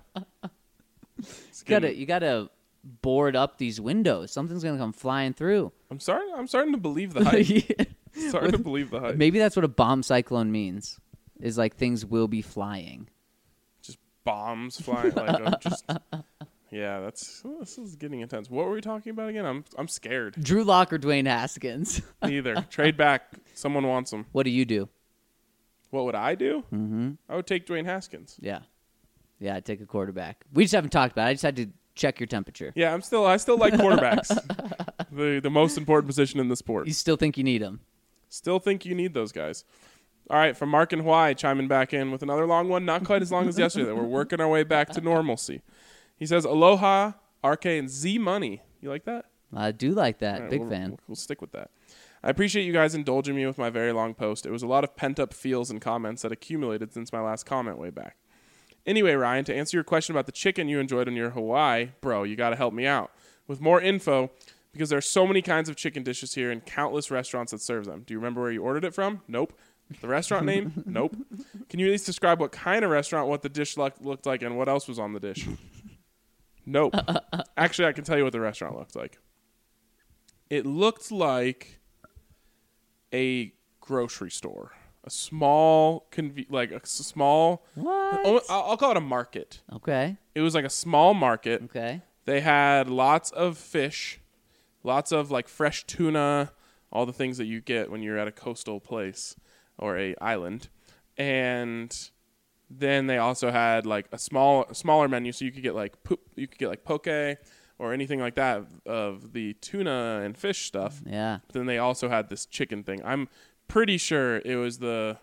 You gotta board up these windows. Something's gonna come flying through. I'm starting to believe the hype. Starting to believe the hype. Maybe that's what a bomb cyclone means. Is like things will be flying. Just bombs flying. Yeah, this is getting intense. What were we talking about again? I'm scared. Drew Lock or Dwayne Haskins? Neither. Trade back. Someone wants them. What do you do? What would I do? Mm-hmm. I would take Dwayne Haskins. Yeah, I'd take a quarterback. We just haven't talked about it. I just had to check your temperature. Yeah, I still like quarterbacks. the most important position in the sport. You still think you need them? Still think you need those guys. All right, from Mark and Hawaii, chiming back in with another long one. Not quite as long as yesterday. We're working our way back to normalcy. He says, Aloha, RK, and Z Money. You like that? I do like that. Right, Big fan. We'll stick with that. I appreciate you guys indulging me with my very long post. It was a lot of pent-up feels and comments that accumulated since my last comment way back. Anyway, Ryan, to answer your question about the chicken you enjoyed on your Hawaii, bro, you got to help me out with more info because there are so many kinds of chicken dishes here and countless restaurants that serve them. Do you remember where you ordered it from? Nope. The restaurant name? Nope. Can you at least describe what kind of restaurant, what the dish looked like, and what else was on the dish? Nope. Actually, I can tell you what the restaurant looked like. It looked like a grocery store. A small, What? I'll call it a market. Okay. It was like a small market. Okay. They had lots of fish, lots of like fresh tuna, all the things that you get when you're at a coastal place or a island. And then they also had like a smaller menu, so you could get like poke or anything like that of the tuna and fish stuff. Yeah. But then they also had this chicken thing. I'm pretty sure it was the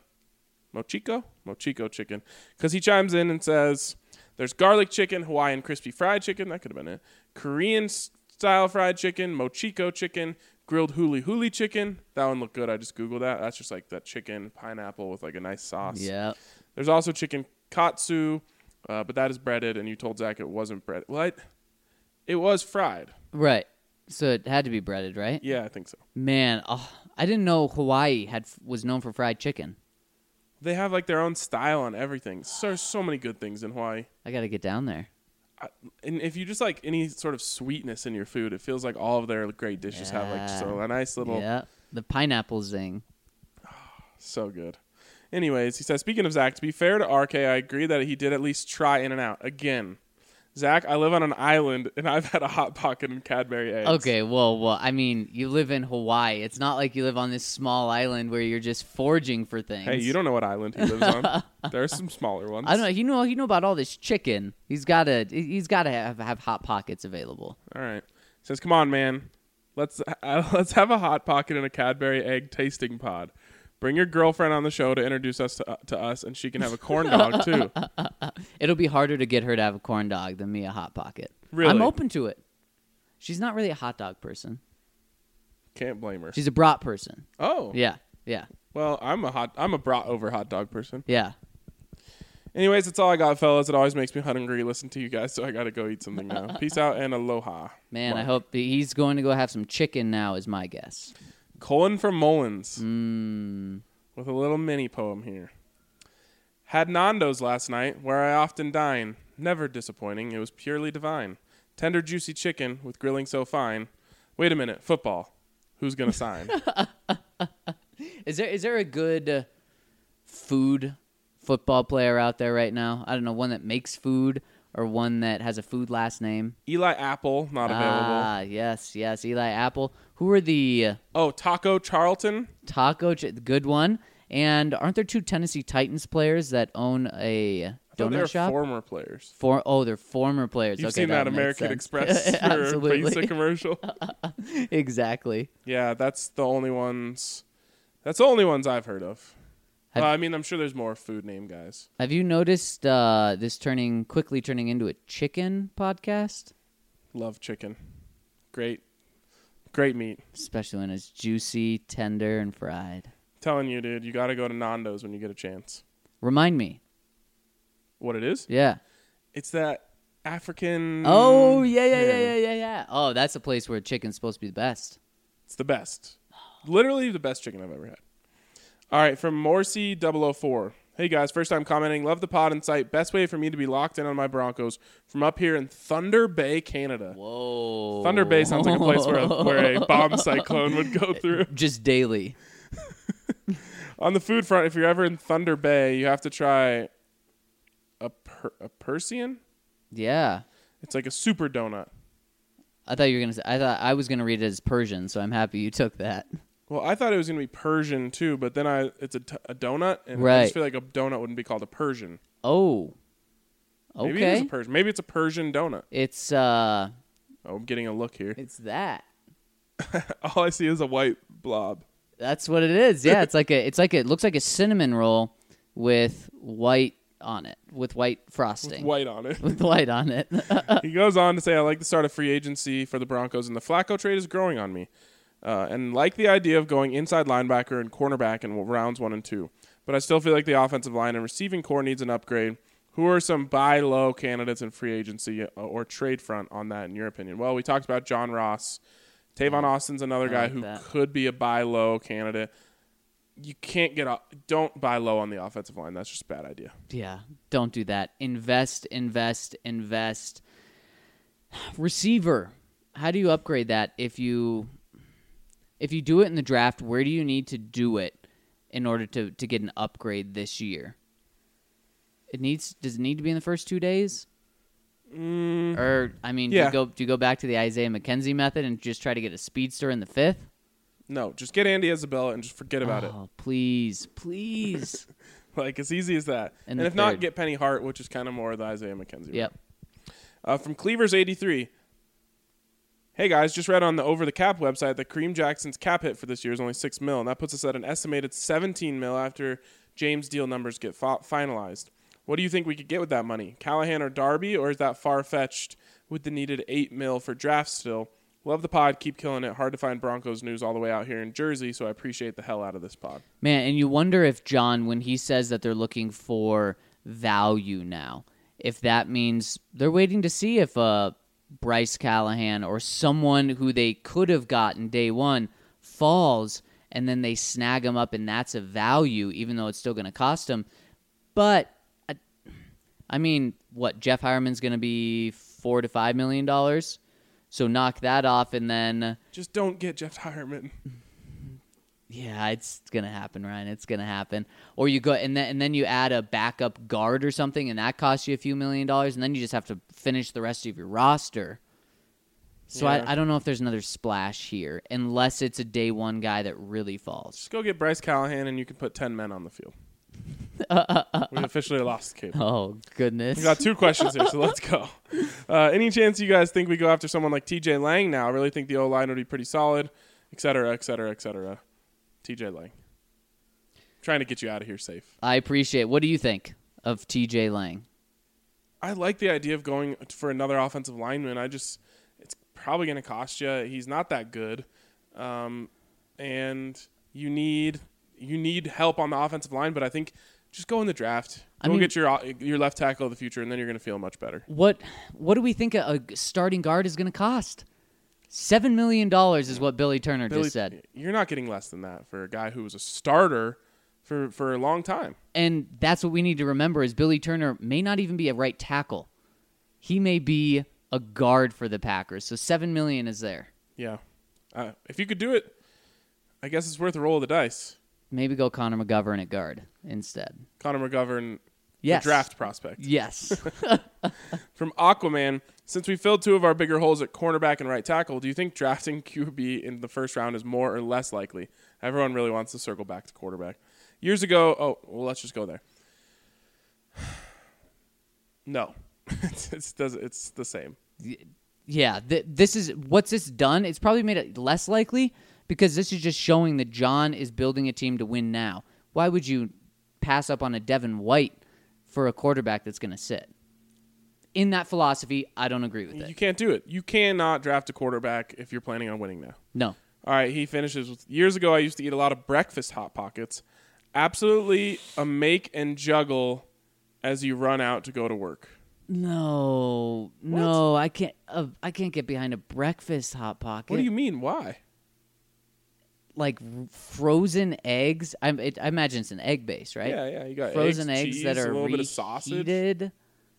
Mochiko chicken, because he chimes in and says there's garlic chicken, Hawaiian crispy fried chicken, that could have been it, Korean style fried chicken, Mochiko chicken, grilled huli chicken. That one looked good. I just Googled that. That's just like that chicken pineapple with like a nice sauce. Yeah. There's also chicken katsu, but that is breaded, and you told Zach it wasn't breaded. What? It was fried. Right. So it had to be breaded, right? Yeah, I think so. Man, I didn't know Hawaii was known for fried chicken. They have like their own style on everything. So many good things in Hawaii. I got to get down there. And if you just like any sort of sweetness in your food, it feels like all of their great dishes have like just a nice little... Yeah, the pineapple zing. So good. Anyways, he says, speaking of Zach, to be fair to RK, I agree that he did at least try In-N-Out. Again, Zach, I live on an island, and I've had a Hot Pocket and Cadbury eggs. Okay, well, I mean, you live in Hawaii. It's not like you live on this small island where you're just foraging for things. Hey, you don't know what island he lives on. There are some smaller ones. I don't know. You know about all this chicken. He's got to have Hot Pockets available. All right. He says, come on, man. Let's have a Hot Pocket and a Cadbury egg tasting pod. Bring your girlfriend on the show to introduce us to us, and she can have a corn dog, too. It'll be harder to get her to have a corn dog than me a Hot Pocket. Really? I'm open to it. She's not really a hot dog person. Can't blame her. She's a brat person. Oh. Yeah. Well, I'm a brat over hot dog person. Yeah. Anyways, that's all I got, fellas. It always makes me hungry listen to you guys, so I got to go eat something now. Peace out and aloha. Man, Mark. I hope he's going to go have some chicken now is my guess. Colin from Mullins Mm. with a little mini poem here. Had Nando's last night, where I often dine. Never disappointing. It was purely divine. Tender, juicy chicken with grilling so fine. Wait a minute. Football. Who's going to sign? Is there a good football player out there right now? I don't know, one that makes food or one that has a food last name. Eli Apple, not available. Ah, yes, Eli Apple. Who are the Oh, Taco Charlton. good one? And aren't there 2 Tennessee Titans players that own a They're donut shop? former players. They're former players. You've okay, seen that makes American sense. Express or Absolutely. Pizza commercial? Exactly. Yeah, that's the only ones. That's the only ones I've heard of. I mean, I'm sure there's more food name guys. Have you noticed this quickly turning into a chicken podcast? Love chicken. Great meat. Especially when it's juicy, tender, and fried. Telling you, dude, you got to go to Nando's when you get a chance. Remind me. What it is? Yeah. It's that African. Oh, yeah. Oh, that's a place where chicken's supposed to be the best. It's the best. Literally the best chicken I've ever had. All right, from Morsi004. Hey, guys, first time commenting. Love the pod and site. Best way for me to be locked in on my Broncos from up here in Thunder Bay, Canada. Whoa. Thunder Bay sounds like a place where a bomb cyclone would go through. Just daily. On the food front, if you're ever in Thunder Bay, you have to try a Persian. Yeah. It's like a super donut. I thought I was gonna read it as Persian, so I'm happy you took that. Well, I thought it was going to be Persian, too, but then it's a donut, and I Right. just feel like a donut wouldn't be called a Persian. Oh. Okay. Maybe it is a Persian. Maybe it's a Persian donut. It's Oh, I'm getting a look here. it's that. All I see is a white blob. That's what it is. Yeah, it looks like a cinnamon roll with white on it, with white frosting. White on it. With white on it. He goes on to say, I like the start of free agency for the Broncos, and the Flacco trade is growing on me. And like the idea of going inside linebacker and cornerback in rounds 1 and 2. But I still feel like the offensive line and receiving core needs an upgrade. Who are some buy low candidates in free agency or trade front on that, in your opinion? Well, we talked about John Ross. Tavon Austin's another guy like who that. could be a buy low candidate. You can't don't buy low on the offensive line. That's just a bad idea. Yeah, don't do that. Invest. Receiver. How do you upgrade that if you do it in the draft? Where do you need to do it in order to get an upgrade this year? Does it need to be in the first 2 days? Or yeah. do you go back to the Isaiah McKenzie method and just try to get a speedster in the 5th? No, just get Andy Isabella and just forget about it. Oh, please. Like, as easy as that. And And the if not, third. get Penny Hart, which is kind of more the Isaiah McKenzie. Yep. From Cleavers83. Hey, guys, just read on the Over the Cap website that Kareem Jackson's cap hit for this year is only $6 million. That puts us at an estimated $17 million after James' deal numbers get finalized. What do you think we could get with that money? Callahan or Darby, or is that far-fetched with the needed $8 million for draft still? Love the pod. Keep killing it. Hard to find Broncos news all the way out here in Jersey, so I appreciate the hell out of this pod. Man, and you wonder if John, when he says that they're looking for value now, if that means they're waiting to see if Bryce Callahan or someone who they could have gotten day one falls, and then they snag him up, and that's a value, even though it's still going to cost them. But, I mean, what, Jeff Hireman's going to be $4 to $5 million? So knock that off, and then... Just don't get Jeff Hireman. Yeah, it's gonna happen, Ryan. It's gonna happen. Or you go and then you add a backup guard or something, and that costs you a few $1 million, and then you just have to finish the rest of your roster. So Yeah. I don't know if there's another splash here, unless it's a day one guy that really falls. Just go get Bryce Callahan, and you can put 10 men on the field. We officially lost the cable. Oh goodness! We got 2 questions here, so let's go. Any chance you guys think we go after someone like TJ Lang now? I really think the O-line would be pretty solid, et cetera, et cetera, et cetera. TJ Lang. Trying to get you out of here safe. I appreciate. What do you think of TJ Lang? I like the idea of going for another offensive lineman. It's probably going to cost you. He's not that good. And you need help on the offensive line, but I think just go in the draft. Go get your left tackle of the future, and then you're going to feel much better. What do we think a starting guard is going to cost? $7 million is what Billy Turner just said. You're not getting less than that for a guy who was a starter for a long time. And that's what we need to remember is Billy Turner may not even be a right tackle. He may be a guard for the Packers. So $7 million is there. Yeah. If you could do it, I guess it's worth a roll of the dice. Maybe go Connor McGovern at guard instead. Connor McGovern, Yes. the draft prospect. Yes. From Aquaman, since we filled 2 of our bigger holes at cornerback and right tackle, do you think drafting QB in the first round is more or less likely? Everyone really wants to circle back to quarterback. Years ago, let's just go there. No, it's the same. Yeah, this is what's this done. It's probably made it less likely because this is just showing that John is building a team to win now. Why would you pass up on a Devin White for a quarterback that's going to sit? In that philosophy, I don't agree with it. You can't do it. You cannot draft a quarterback if you're planning on winning now. No. All right, he finishes with, years ago I used to eat a lot of breakfast Hot Pockets. Absolutely a make and juggle as you run out to go to work. No, I can't get behind a breakfast Hot Pocket. What do you mean? Why? Like frozen eggs? I imagine it's an egg base, right? Yeah. You got frozen eggs cheese, that are a little bit of sausage. reheated.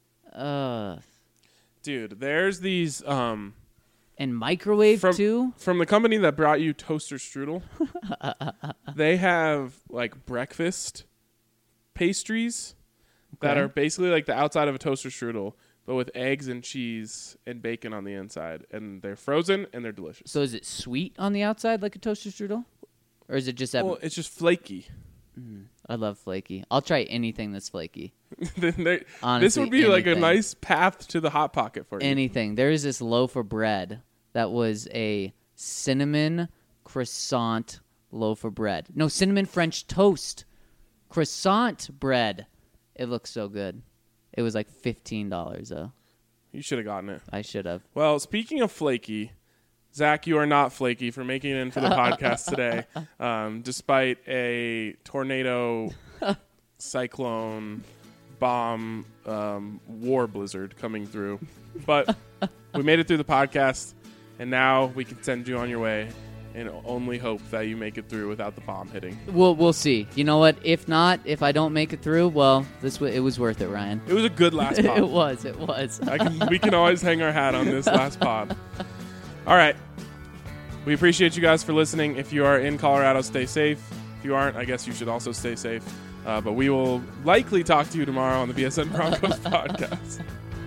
Dude, there's these And microwave too? From the company that brought you Toaster Strudel. They have like breakfast pastries that are basically like the outside of a toaster strudel, but with eggs and cheese and bacon on the inside. And they're frozen and they're delicious. So is it sweet on the outside like a toaster strudel? Or is it just that? Well, it's just flaky. I love flaky. I'll try anything that's flaky. This Honestly, would be like a anything. nice path to the Hot Pocket for you. Anything. There is this loaf of bread that was a cinnamon croissant loaf of bread. No, cinnamon French toast croissant bread. It looks so good. It was like $15 though. You should have gotten it. I should have. Well, speaking of flaky, Zach, you are not flaky for making it in for the podcast today, despite a tornado, cyclone, bomb, war blizzard coming through. But we made it through the podcast, and now we can send you on your way and only hope that you make it through without the bomb hitting. We'll see. You know what? If not, if I don't make it through, well, it was worth it, Ryan. It was a good last pod. It was. We can always hang our hat on this last pod. All right. We appreciate you guys for listening. If you are in Colorado, stay safe. If you aren't, I guess you should also stay safe. But we will likely talk to you tomorrow on the BSN Broncos podcast.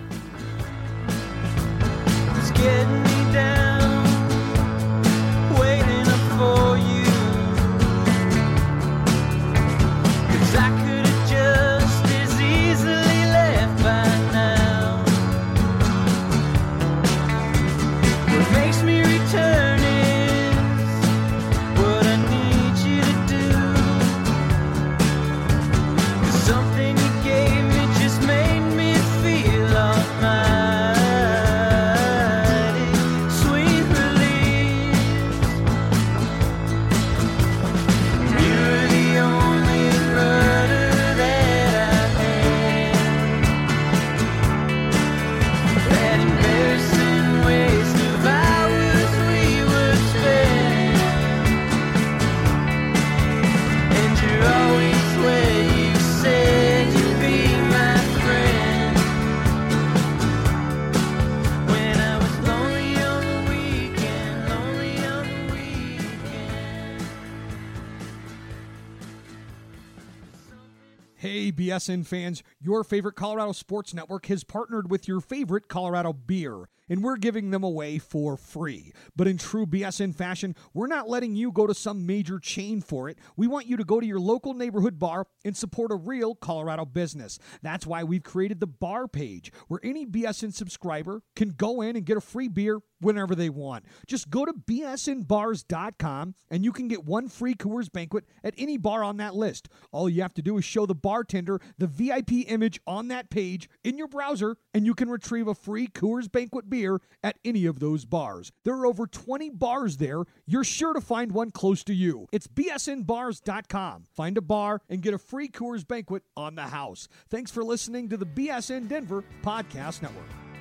It's getting me down, waiting up for you. 'Cause I could have just as easily left by now. What makes me return is what I need you to do. 'Cause something you gave me just made me feel almighty. Sweet release. You're the only murder that I've had. That embarrassing waste of hours we would spend. And you're always where you said you'd be my friend. When I was lonely on the weekend, lonely on the weekend. Hey, BSN fans, your favorite Colorado Sports Network has partnered with your favorite Colorado beer, and we're giving them away for free. But in true BSN fashion, we're not letting you go to some major chain for it. We want you to go to your local neighborhood bar and support a real Colorado business. That's why we've created the bar page, where any BSN subscriber can go in and get a free beer whenever they want. Just go to bsnbars.com and you can get one free Coors Banquet at any bar on that list. All you have to do is show the bartender the VIP image on that page in your browser, and you can retrieve a free Coors Banquet beer at any of those bars. There are over 20 bars there. You're sure to find one close to you. It's bsnbars.com. Find a bar and get a free Coors Banquet on the house. Thanks for listening to the BSN Denver Podcast Network.